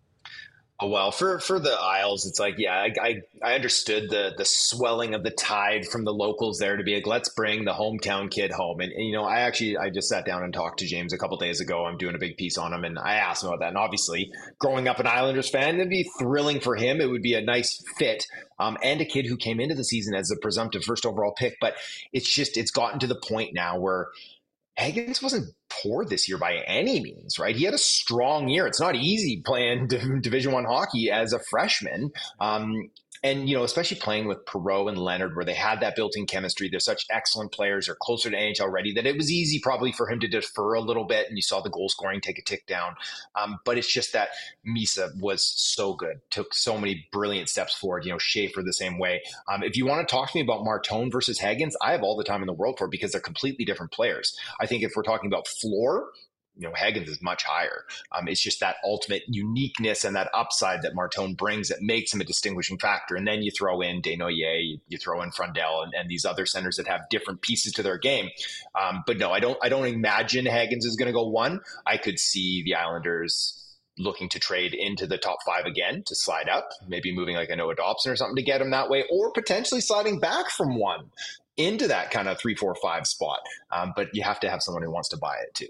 Oh, well, for, for the Isles, it's like, yeah, I, I I understood the the swelling of the tide from the locals there to be like, let's bring the hometown kid home. And, and you know, I actually, I just sat down and talked to James a couple days ago. I'm doing a big piece on him, and I asked him about that. And obviously, growing up an Islanders fan, it'd be thrilling for him. It would be a nice fit. Um, and a kid who came into the season as a presumptive first overall pick. But it's just, it's gotten to the point now where Higgins wasn't poor this year by any means, right? He had a strong year. It's not easy playing Division One hockey as a freshman. Um, and, you know, especially playing with Perreault and Leonard, where they had that built-in chemistry. They're such excellent players. They're closer to N H L ready that it was easy probably for him to defer a little bit. And you saw the goal scoring take a tick down. Um, but it's just that Misa was so good, took so many brilliant steps forward. You know, Schaefer the same way. Um, if you want to talk to me about Martone versus Higgins, I have all the time in the world for it, because they're completely different players. I think if we're talking about floor, you know, Higgins is much higher. Um, it's just that ultimate uniqueness and that upside that Martone brings that makes him a distinguishing factor. And then you throw in Desnoyers, you, you throw in Frundell, and, and these other centers that have different pieces to their game. Um, but no, I don't. I don't imagine Higgins is going to go one. I could see the Islanders looking to trade into the top five again to slide up, maybe moving like a Noah Dobson or something to get him that way, or potentially sliding back from one into that kind of three, four, five spot. Um, but you have to have someone who wants to buy it too.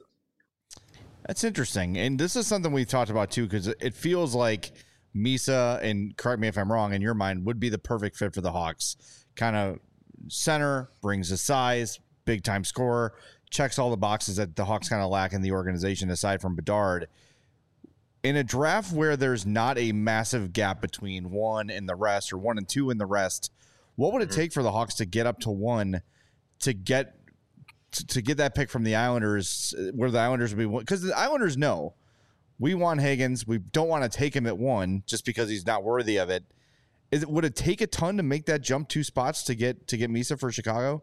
That's interesting. And this is something we've talked about too, because it feels like Misa, and correct me if I'm wrong, in your mind, would be the perfect fit for the Hawks. Kind of center, brings the size, big time scorer, checks all the boxes that the Hawks kind of lack in the organization aside from Bedard. In a draft where there's not a massive gap between one and the rest, or one and two in the rest, what would it take for the Hawks to get up to one to get to get that pick from the Islanders, where the Islanders would be, because the Islanders know we want Higgins. We don't want to take him at one just because he's not worthy of it. Is it, would it take a ton to make that jump two spots to get, to get Misa for Chicago?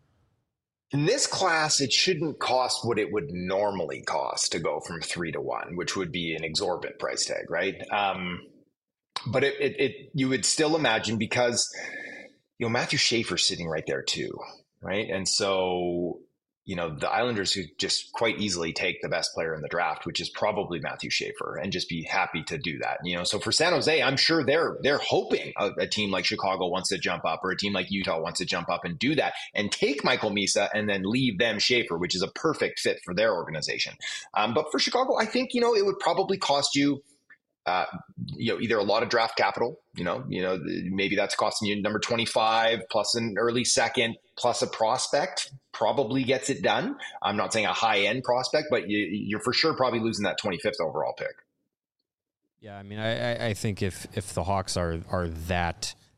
In this class, it shouldn't cost what it would normally cost to go from three to one, which would be an exorbitant price tag, right? Um, but it, it, it, you would still imagine, because, you know, Matthew Schaefer's sitting right there too, right? And so, you know, the Islanders could just quite easily take the best player in the draft, which is probably Matthew Schaefer, and just be happy to do that. You know, so for San Jose, I'm sure they're they're hoping a, a team like Chicago wants to jump up, or a team like Utah wants to jump up and do that and take Michael Misa and then leave them Schaefer, which is a perfect fit for their organization. Um, but for Chicago, I think, you know, it would probably cost you Uh, you know, either a lot of draft capital, you know, you know, maybe that's costing you number twenty-five plus an early second plus a prospect probably gets it done. I'm not saying a high end prospect, but you, you're for sure probably losing that twenty-fifth overall pick. Yeah, I mean, I, I think if if the Hawks are are that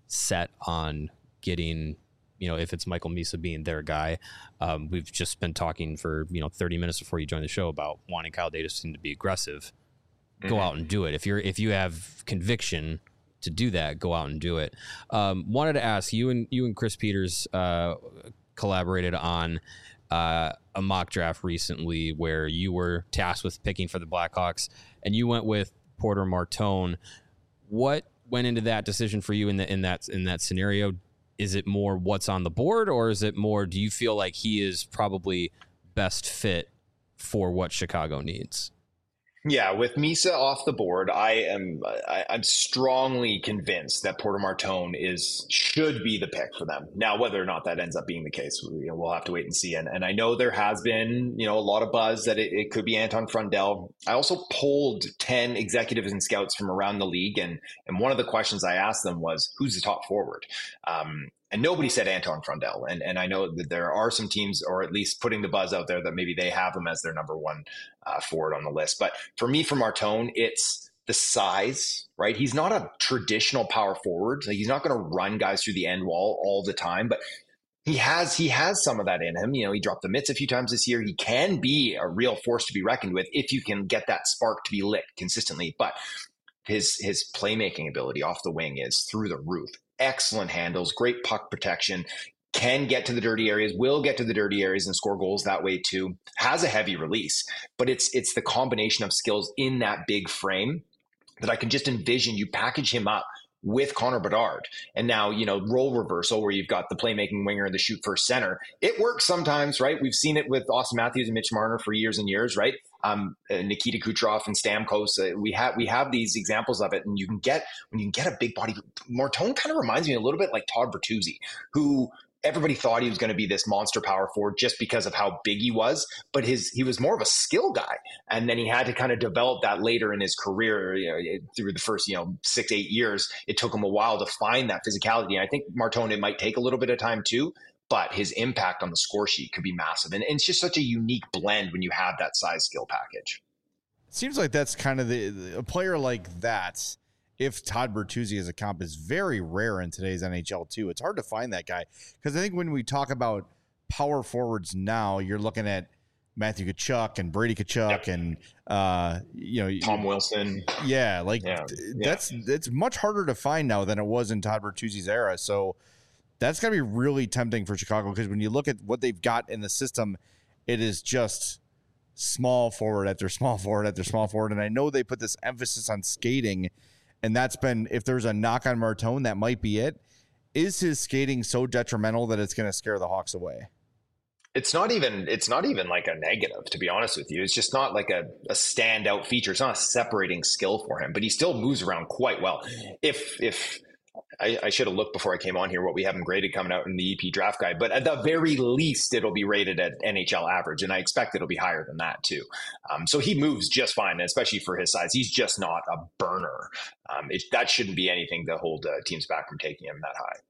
set on getting, you know, if it's Michael Misa being their guy. Um, we've just been talking for, you know, thirty minutes before you joined the show about wanting Kyle Davidson to be aggressive. Mm-hmm. Go out and do it. If you're, if you have conviction to do that, go out and do it. Um, wanted to ask you and you and Chris Peters uh, collaborated on uh, a mock draft recently where you were tasked with picking for the Blackhawks and you went with Porter Martone. What went into that decision for you in the, in that, in that scenario? Is it more what's on the board, or is it more, do you feel like he is probably best fit for what Chicago needs? Yeah, with Misa off the board, I am I, I'm strongly convinced that Porter Martone is should be the pick for them. Now, whether or not that ends up being the case, you know, we'll have to wait and see. And, and I know there has been, you know, a lot of buzz that it, it could be Anton Frundell. I also polled ten executives and scouts from around the league, and and one of the questions I asked them was, who's the top forward? Um, And nobody said Anton Frundell. And and I know that there are some teams, or at least putting the buzz out there, that maybe they have him as their number one uh, forward on the list. But for me, for Martone, it's the size, right? He's not a traditional power forward. Like, he's not going to run guys through the end wall all the time, but he has he has some of that in him. You know, he dropped the mitts a few times this year. He can be a real force to be reckoned with if you can get that spark to be lit consistently. But his his playmaking ability off the wing is through the roof. Excellent handles, great puck protection, can get to the dirty areas, will get to the dirty areas and score goals that way too. Has a heavy release, but it's it's the combination of skills in that big frame that I can just envision you package him up with Connor Bedard. And now, you know, role reversal where you've got the playmaking winger and the shoot first center. It works sometimes, right? We've seen it with Austin Matthews and Mitch Marner for years and years, right? Um, Nikita Kucherov and Stamkos. Uh, we have we have these examples of it, and you can get when you can get a big body. Martone kind of reminds me a little bit like Todd Bertuzzi, who everybody thought he was going to be this monster power forward just because of how big he was, but his he was more of a skill guy, and then he had to kind of develop that later in his career. You know, through the first you know six eight years, it took him a while to find that physicality. And I think Martone, it might take a little bit of time too, but his impact on the score sheet could be massive. And, and it's just such a unique blend when you have that size skill package. It seems like that's kind of the, the a player like that. If Todd Bertuzzi as a comp is very rare in today's N H L too. It's hard to find that guy, because I think when we talk about power forwards now, you're looking at Matthew Tkachuk and Brady Tkachuk yep. and uh, you know Tom Wilson. Yeah, like yeah. that's it's much harder to find now than it was in Todd Bertuzzi's era. So that's going to be really tempting for Chicago, because when you look at what they've got in the system, it is just small forward after small forward after small forward. And I know they put this emphasis on skating, and that's been, if there's a knock on Martone, that might be it. Is his skating so detrimental that it's going to scare the Hawks away? It's not even, it's not even like a negative, to be honest with you. It's just not like a, a standout feature. It's not a separating skill for him, but he still moves around quite well. If, if, I, I should have looked before I came on here what we have him graded coming out in the E P draft guide, but at the very least, it'll be rated at N H L average, and I expect it'll be higher than that too. Um, so he moves just fine, especially for his size. He's just not a burner. Um, it, that shouldn't be anything to hold uh, teams back from taking him that high.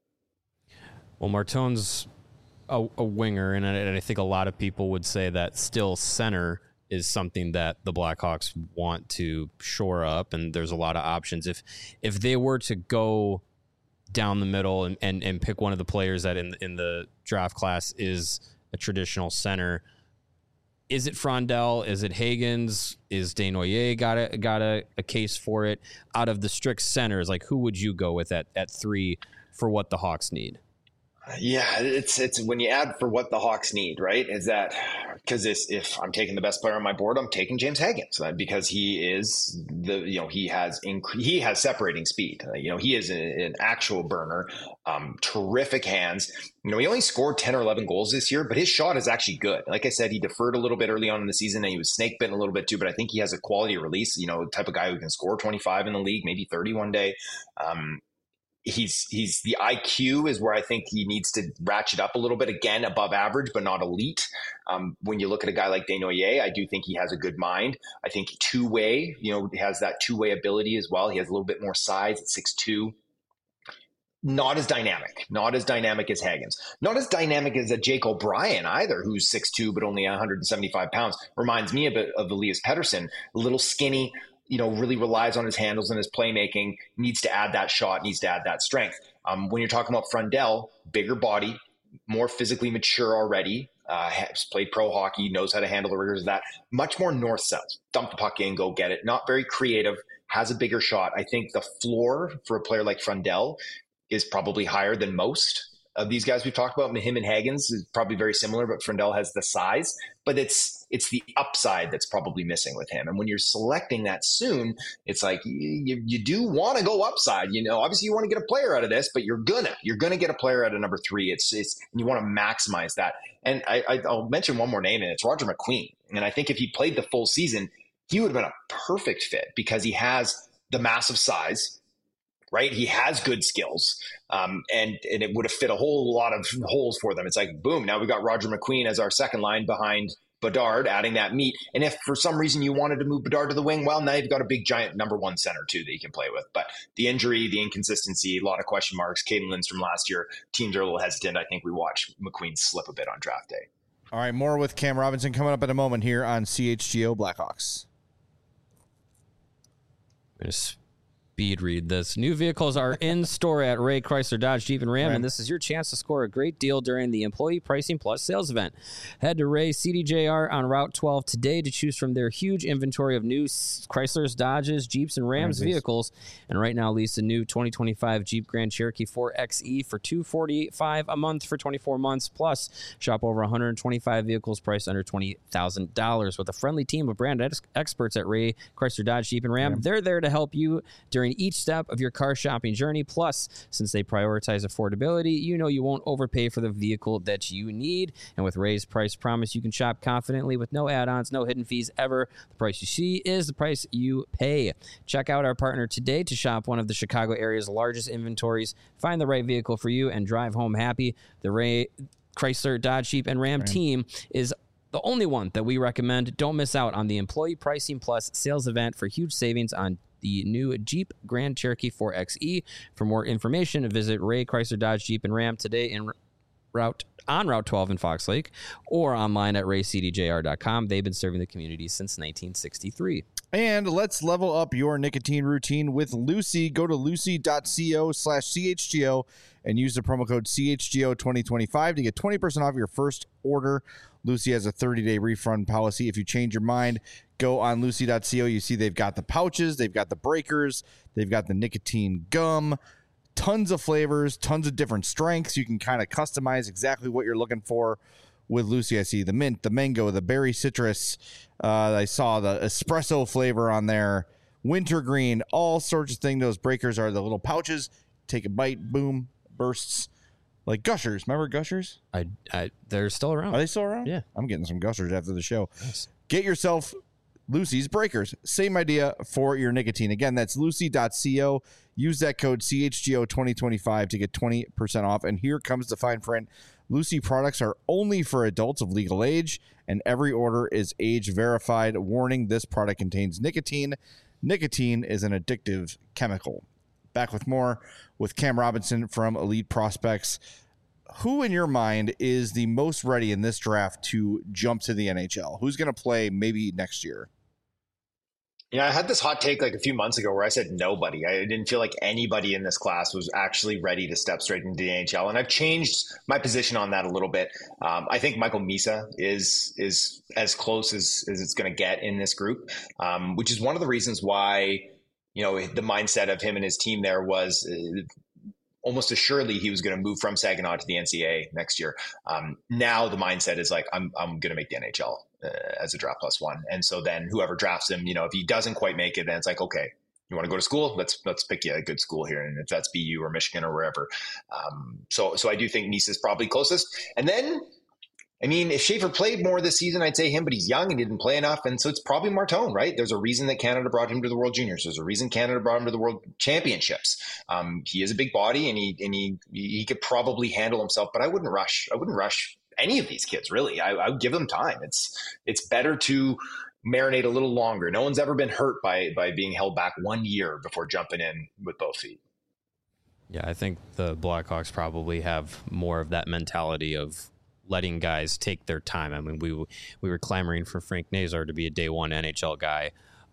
Well, Martone's a, a winger, and I, and I think a lot of people would say that still center is something that the Blackhawks want to shore up, and there's a lot of options. If if they were to go down the middle and, and, and pick one of the players that in in the draft class is a traditional center, is it Frondell? Is it Hagens? Is Desnoyers got a got a, a case for it? Out of the strict centers, like, who would you go with at at three for what the Hawks need? Yeah, it's it's when you add for what the Hawks need, right? Is that because if I'm taking the best player on my board, I'm taking James Hagens, because he is the you know he has inc- he has separating speed. Uh, you know he is a, an actual burner, um, terrific hands. You know he only scored ten or eleven goals this year, but his shot is actually good. Like I said, he deferred a little bit early on in the season, and he was snake bitten a little bit too. But I think he has a quality release. You know, the type of guy who can score twenty-five in the league, maybe thirty one day. Um, He's he's the I Q is where I think he needs to ratchet up a little bit, again, above average, but not elite. Um, when you look at a guy like Desnoyers, I do think he has a good mind. I think two way, you know, has that two way ability as well. He has a little bit more size at six two. Not as dynamic, not as dynamic as Hagens, not as dynamic as a Jake O'Brien either, who's six two but only one hundred seventy-five pounds. Reminds me a bit of Elias Pettersson, a little skinny. you know, really relies on his handles and his playmaking, needs to add that shot, needs to add that strength. Um, when you're talking about Frundell, bigger body, more physically mature already, uh, has played pro hockey, knows how to handle the rigors of that, much more north-south, dump the puck in, go get it, not very creative, has a bigger shot. I think the floor for a player like Frundell is probably higher than most of these guys we've talked about. Him and Hagens is probably very similar, but Frundell has the size. But it's it's the upside that's probably missing with him. And when you're selecting that soon, it's like you, you do want to go upside. You know, obviously you want to get a player out of this, but you're gonna you're gonna get a player out of number three. It's it's and you want to maximize that. And I, I, I'll mention one more name, and it's Roger McQueen. And I think if he played the full season, he would have been a perfect fit because he has the massive size. Right. He has good skills, um, and, and it would have fit a whole lot of holes for them. It's like, boom, now we've got Roger McQueen as our second line behind Bedard, adding that meat. And if for some reason you wanted to move Bedard to the wing, well, now you've got a big giant number one center too that you can play with. But the injury, the inconsistency, a lot of question marks. Caden Lindstrom last year, teams are a little hesitant. I think we watched McQueen slip a bit on draft day. All right, more with Cam Robinson coming up in a moment here on C H G O Blackhawks. Yes. Speed read this. New vehicles are in store at Ray Chrysler Dodge Jeep and Ram, Ram. and this is your chance to score a great deal during the Employee Pricing Plus sales event. Head to Ray C D J R on Route twelve today to choose from their huge inventory of new Chryslers, Dodges, Jeeps, and Rams Rams. vehicles. And right now, lease a new twenty twenty-five Jeep Grand Cherokee four X E for two hundred forty-five dollars a month for twenty-four months. Plus, shop over one hundred twenty-five vehicles priced under twenty thousand dollars with a friendly team of brand ex- experts at Ray Chrysler Dodge Jeep and Ram. Ram. They're there to help you during each step of your car shopping journey. Plus, since they prioritize affordability, you know you won't overpay for the vehicle that you need. And with Ray's Price Promise, you can shop confidently with no add-ons, no hidden fees ever. The price you see is the price you pay. Check out our partner today to shop one of the Chicago area's largest inventories. Find the right vehicle for you and drive home happy. The Ray Chrysler Dodge Jeep and Ram Right. team is the only one that we recommend. Don't miss out on the Employee Pricing Plus sales event for huge savings on the new Jeep Grand Cherokee four X E. For more information, visit Ray Chrysler Dodge Jeep and Ram today in route on Route twelve in Fox Lake or online at ray c d j r dot com. They've been serving the community since nineteen sixty-three. And let's level up your nicotine routine with Lucy. Go to lucy.co slash CHGO and use the promo code C H G O twenty twenty-five to get twenty percent off your first order. Lucy has a thirty-day refund policy. If you change your mind, go on lucy.co. You see they've got the pouches, they've got the breakers, they've got the nicotine gum, tons of flavors, tons of different strengths. You can kind of customize exactly what you're looking for with Lucy. I see the mint, the mango, the berry citrus. Uh, I saw the espresso flavor on there, wintergreen, all sorts of things. Those breakers are the little pouches. Take a bite, boom, bursts. Like Gushers. Remember Gushers? I, I, they're still around. Are they still around? Yeah. I'm getting some Gushers after the show. Nice. Get yourself Lucy's Breakers. Same idea for your nicotine. Again, that's lucy.co. Use that code C H G O twenty twenty-five to get twenty percent off. And here comes the fine print. Lucy products are only for adults of legal age, and every order is age verified. Warning, this product contains nicotine. Nicotine is an addictive chemical. Back with more with Cam Robinson from Elite Prospects. Who in your mind is the most ready in this draft to jump to the N H L? Who's going to play maybe next year? Yeah, I had this hot take like a few months ago where I said nobody. I didn't feel like anybody in this class was actually ready to step straight into the N H L, and I've changed my position on that a little bit. Um, I think Michael Misa is is as close as, as it's going to get in this group, um, which is one of the reasons why, you know, the mindset of him and his team there was uh, almost assuredly he was going to move from Saginaw to the N C A A next year. Um, now the mindset is like, I'm I'm going to make the N H L. Uh, as a draft plus one. And so then whoever drafts him, you know, if he doesn't quite make it, then it's like, okay, you want to go to school? Let's, let's pick you a good school here. And if that's B U or Michigan or wherever. Um, so, so I do think Nice is probably closest. And then, I mean, if Schaefer played more this season, I'd say him, but he's young and didn't play enough. And so it's probably Martone, right? There's a reason that Canada brought him to the World Juniors. There's a reason Canada brought him to the World Championships. Um, he is a big body and he, and he, he could probably handle himself, but I wouldn't rush. I wouldn't rush any of these kids, really. I, I would give them time. It's it's better to marinate a little longer. No one's ever been hurt by by being held back one year before jumping in with both feet. Yeah, I think the Blackhawks probably have more of that mentality of letting guys take their time. I mean, we we were clamoring for Frank Nazar to be a day one N H L guy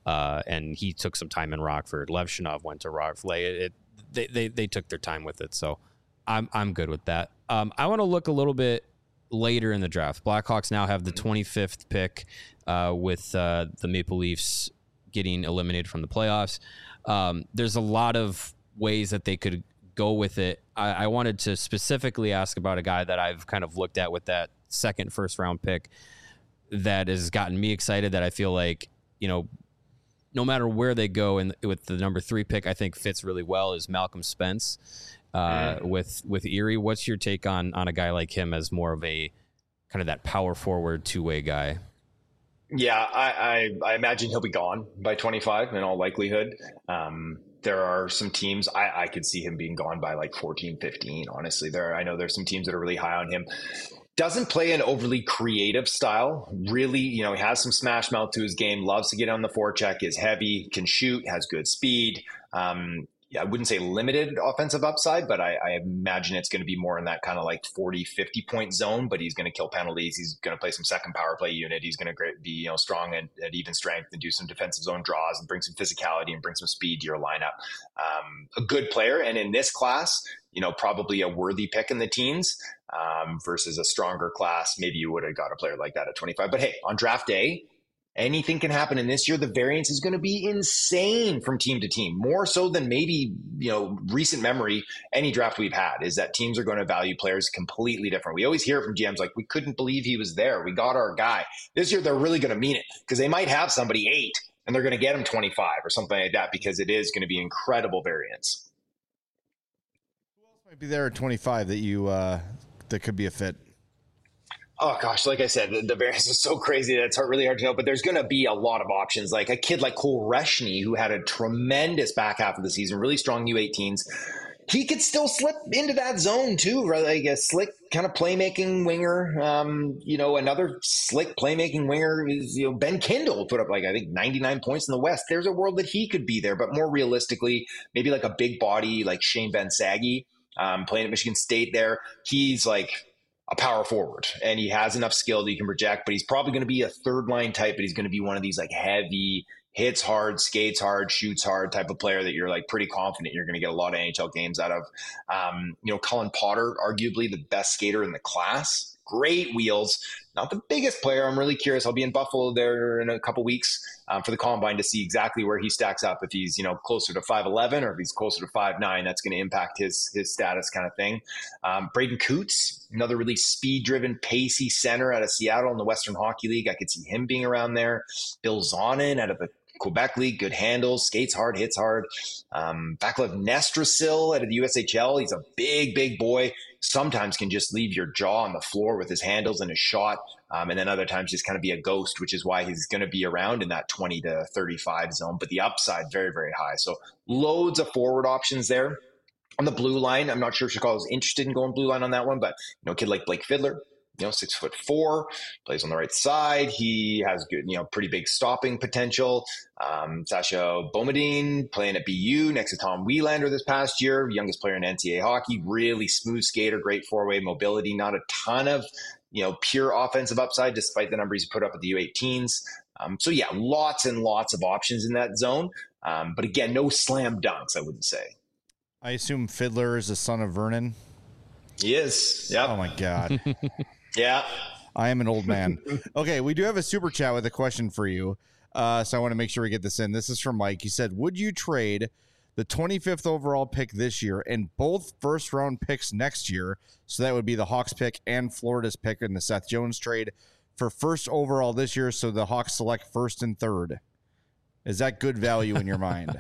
uh, and he took some time in Rockford. Levshinov went to Rockford. Like it, it, they, they they took their time with it, so I'm I'm good with that. Um, I want to look a little bit later in the draft. Blackhawks now have the twenty-fifth pick, uh, with uh, the Maple Leafs getting eliminated from the playoffs. Um, there's a lot of ways that they could go with it. I, I wanted to specifically ask about a guy that I've kind of looked at with that second first round pick that has gotten me excited, that I feel like, you know, no matter where they go and with the number three pick, I think fits really well, is Malcolm Spence uh, mm. with, with Erie. What's your take on, on a guy like him as more of a kind of that power forward two way guy? Yeah, I, I, I imagine he'll be gone by twenty-five in all likelihood. Um, there are some teams I, I could see him being gone by like fourteen, fifteen. Honestly, there, I know there's some teams that are really high on him. Doesn't play an overly creative style. Really, you know, he has some smash mouth to his game, loves to get on the forecheck, is heavy, can shoot, has good speed. Um, yeah, I wouldn't say limited offensive upside, but I, I imagine it's going to be more in that kind of like forty, fifty point zone, but he's going to kill penalties. He's going to play some second power play unit. He's going to be, you know, strong at, at even strength and do some defensive zone draws and bring some physicality and bring some speed to your lineup. Um, a good player. And in this class, you know, probably a worthy pick in the teens, um, versus a stronger class. Maybe you would have got a player like that at twenty-five, but hey, on draft day, anything can happen. And this year, the variance is going to be insane from team to team, more so than maybe, you know, recent memory, any draft we've had, is that teams are going to value players completely different. We always hear from G Ms like, we couldn't believe he was there. We got our guy. This year, they're really going to mean it, because they might have somebody eight and they're going to get him twenty-five or something like that, because it is going to be incredible variance. Who else might be there at twenty-five that you, uh, that could be a fit? Oh gosh, like I said, the, the variance is so crazy that it's hard, really hard to know, but there's going to be a lot of options. Like a kid like Cole Reshny, who had a tremendous back half of the season, really strong U eighteens. He could still slip into that zone too, right? Like a slick kind of playmaking winger. Um, you know, another slick playmaking winger is, you know, Ben Kindle put up like, I think ninety-nine points in the West. There's a world that he could be there, but more realistically, maybe like a big body like Shane Van Saggy, um, playing at Michigan State there. He's like a power forward and he has enough skill that he can project, but he's probably going to be a third line type, but he's going to be one of these like heavy, hits hard, skates hard, shoots hard type of player that you're like pretty confident you're going to get a lot of N H L games out of. Um, you know, Colin Potter, arguably the best skater in the class. Great wheels, not the biggest player. I'm really curious. I'll be in Buffalo there in a couple weeks um, for the Combine to see exactly where he stacks up. If he's, you know, closer to five eleven or if he's closer to five nine, that's going to impact his his status kind of thing. Um, Braden Coots, another really speed-driven, pacey center out of Seattle in the Western Hockey League. I could see him being around there. Bill Zonin out of the Quebec League, good handles, skates hard, hits hard. Um, Vaclav Nestrasil out of the U S H L. He's a big, big boy. Sometimes can just leave your jaw on the floor with his handles and his shot. Um, and then other times just kind of be a ghost, which is why he's going to be around in that twenty to thirty-five zone. But the upside, very, very high. So loads of forward options there. On the blue line, I'm not sure if Chicago's interested in going blue line on that one, but, you know, a kid like Blake Fiddler, you know, six foot four, plays on the right side. He has good, you know, pretty big stopping potential. Um, Sasha Boumediene playing at B U next to Tom Wielander this past year, youngest player in N C double A hockey, really smooth skater, great four-way mobility, not a ton of, you know, pure offensive upside, despite the numbers he put up at the U eighteens. Um, so yeah, lots and lots of options in that zone. Um, but again, no slam dunks, I wouldn't say. I assume Fiddler is the son of Vernon. He is. Yeah. Oh my God. Yeah. I am an old man. Okay, we do have a super chat with a question for you. Uh, so I want to make sure we get this in. This is from Mike. He said, would you trade the twenty-fifth overall pick this year and both first round picks next year? So that would be the Hawks pick and Florida's pick in the Seth Jones trade for first overall this year. So the Hawks select first and third. Is that good value in your mind?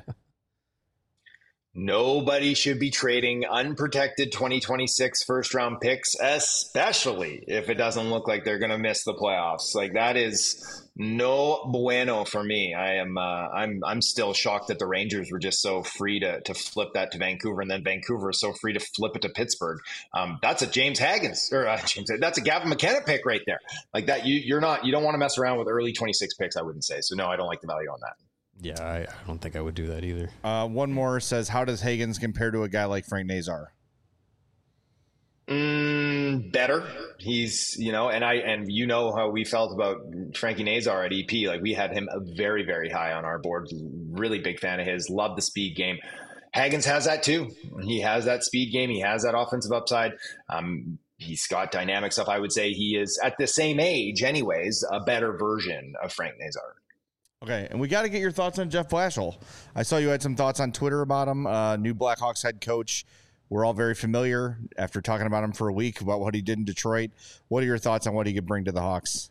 Nobody should be trading unprotected twenty twenty-six first round picks, especially if it doesn't look like they're going to miss the playoffs. Like that is no bueno for me. I am, uh, I'm, I'm still shocked that the Rangers were just so free to to flip that to Vancouver, and then Vancouver is so free to flip it to Pittsburgh. Um, that's a James Haggins or uh, James. That's a Gavin McKenna pick right there. Like that, you you're not, you don't want to mess around with early twenty-six picks. I wouldn't say. So no, I don't like the value on that. Yeah, I, I don't think I would do that either. Uh, one more says, how does Haggins compare to a guy like Frank Nazar? Mm, been better. He's, you know, and I, and you know how we felt about Frankie Nazar at E P. Like, we had him very, very high on our board. Really big fan of his. Love the speed game. Hagens has that too. He has that speed game. He has that offensive upside. Um, he's got dynamic stuff. I would say he is, at the same age anyways, a better version of Frank Nazar. Okay, and we got to get your thoughts on Jeff Blashill. I saw you had some thoughts on Twitter about him, uh, new Blackhawks head coach. We're all very familiar after talking about him for a week about what he did in Detroit. What are your thoughts on what he could bring to the Hawks?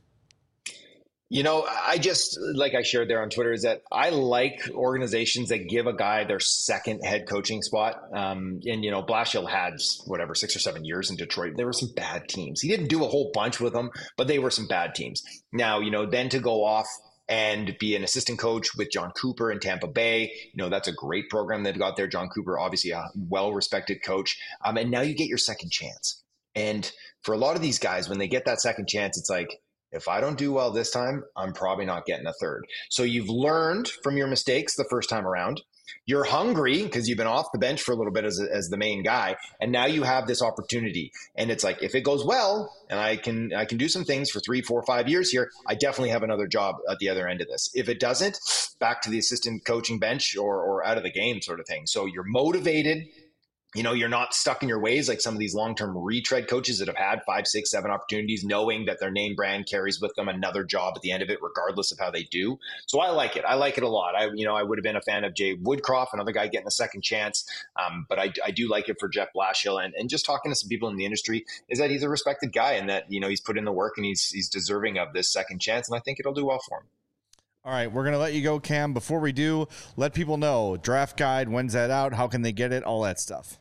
You know, I just, like I shared there on Twitter, is that I like organizations that give a guy their second head coaching spot. Um, and, you know, Blashill had, whatever, six or seven years in Detroit. There were some bad teams. He didn't do a whole bunch with them, but they were some bad teams. Now, you know, then to go off and be an assistant coach with John Cooper in Tampa Bay. You know, that's a great program they've got there. John Cooper, obviously a well-respected coach. Um, and now you get your second chance. And for a lot of these guys, when they get that second chance, it's like, if I don't do well this time, I'm probably not getting a third. So you've learned from your mistakes the first time around. You're hungry because you've been off the bench for a little bit as, as the main guy. And now you have this opportunity. And it's like, if it goes well and I can I can do some things for three, four, five years here, I definitely have another job at the other end of this. If it doesn't, back to the assistant coaching bench or, or out of the game sort of thing. So you're motivated. You know, you're not stuck in your ways like some of these long-term retread coaches that have had five, six, seven opportunities, knowing that their name brand carries with them another job at the end of it, regardless of how they do. So I like it. I like it a lot. I, you know, I would have been a fan of Jay Woodcroft, another guy getting a second chance. Um, but I, I do like it for Jeff Blashill. And, and just talking to some people in the industry is that he's a respected guy and that, you know, he's put in the work and he's he's deserving of this second chance. And I think it'll do well for him. All right, we're going to let you go, Cam. Before we do, let people know, draft guide, when's that out? How can they get it? All that stuff.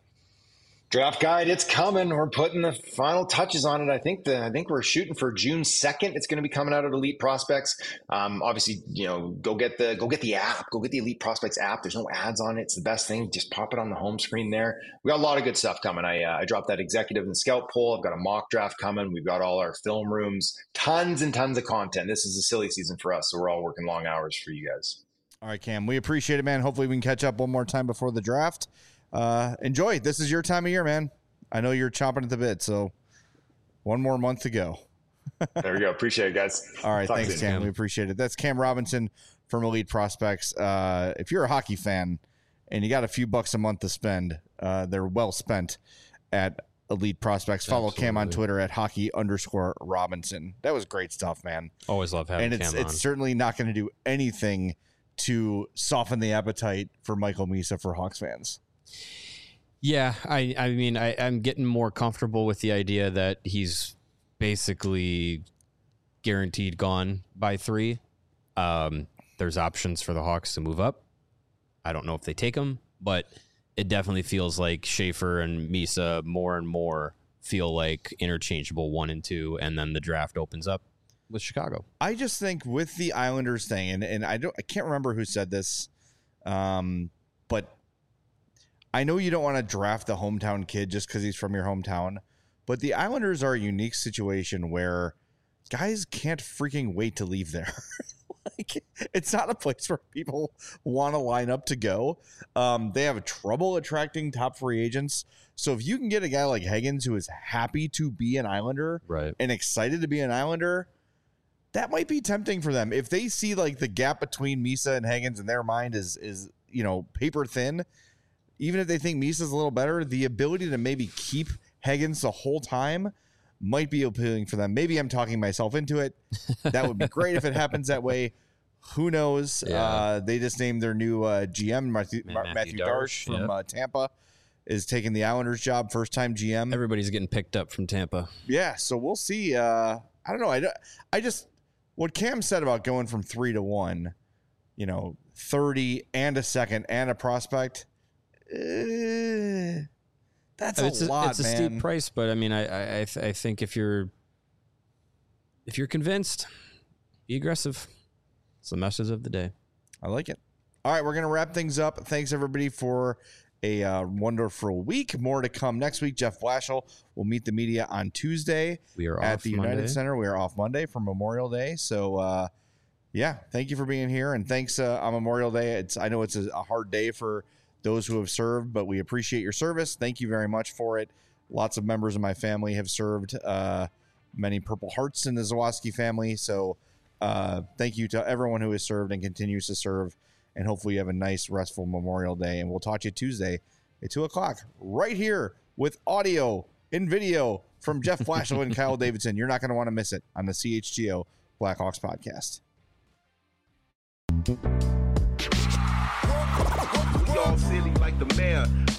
Draft guide, it's coming. We're putting the final touches on it. I think the I think we're shooting for June second. It's going to be coming out of Elite Prospects. Um, obviously, you know, go get the go get the app. Go get the Elite Prospects app. There's no ads on it. It's the best thing. Just pop it on the home screen there. We got a lot of good stuff coming. I uh, I dropped that executive and scout poll. I've got a mock draft coming. We've got all our film rooms. Tons and tons of content. This is a silly season for us, so we're all working long hours for you guys. All right, Cam. We appreciate it, man. Hopefully, we can catch up one more time before the draft. Uh, enjoy. This is your time of year, man. I know you're chomping at the bit, so one more month to go. There we go. Appreciate it, guys. All right, Talk thanks, soon. Cam. We appreciate it. That's Cam Robinson from Elite Prospects. Uh, if you're a hockey fan and you got a few bucks a month to spend, uh, they're well spent at Elite Prospects. Follow Absolutely. Cam on Twitter at hockey underscore Robinson. That was great stuff, man. Always love having and it's, Cam on. it's certainly not going to do anything to soften the appetite for Michael Misa for Hawks fans. Yeah, I, I mean, I, I'm getting more comfortable with the idea that he's basically guaranteed gone by three. Um, there's options for the Hawks to move up. I don't know if they take him, but it definitely feels like Schaefer and Misa more and more feel like interchangeable one and two, and then the draft opens up with Chicago. I just think with the Islanders thing, and, and I don't, I can't remember who said this, um, but I know you don't want to draft the hometown kid just because he's from your hometown, but the Islanders are a unique situation where guys can't freaking wait to leave there. Like, it's not a place where people want to line up to go. Um, they have trouble attracting top free agents. So if you can get a guy like Hagens who is happy to be an Islander Right. and excited to be an Islander, that might be tempting for them. If they see like the gap between Misa and Hagens in their mind is, is, you know, paper thin, even if they think Misa's a little better, the ability to maybe keep Hagens the whole time might be appealing for them. Maybe I'm talking myself into it. That would be great if it happens that way. Who knows? Yeah. Uh, they just named their new uh, G M, Matthew, Matthew Matthew Darsh, Darsh from yep. uh, Tampa, is taking the Islanders job, first time G M. Everybody's getting picked up from Tampa. Yeah, so we'll see. Uh, I don't know. I, don't- I just, what Cam said about going from three to one, you know, thirty and a second and a prospect, uh, that's a it's lot, It's a man. steep price, but I mean, I I, I, th- I think if you're if you're convinced, be aggressive. It's the message of the day. I like it. All right, we're going to wrap things up. Thanks, everybody, for a uh, wonderful week. More to come next week. Jeff Blashill will meet the media on Tuesday We are at off the Monday. United Center. We are off Monday for Memorial Day. So, uh, yeah, thank you for being here. And thanks uh, on Memorial Day. It's I know it's a, a hard day for those who have served, but we appreciate your service. Thank you very much for it. lots of members of my family have served, uh, many Purple Hearts in the Zawaski family. So uh, thank you to everyone who has served and continues to serve. And hopefully you have a nice, restful Memorial Day. And we'll talk to you Tuesday at two o'clock right here with audio and video from Jeff Flashel and Kyle Davidson. You're not going to want to miss it on the C H G O Blackhawks podcast. Y'all silly like the mayor.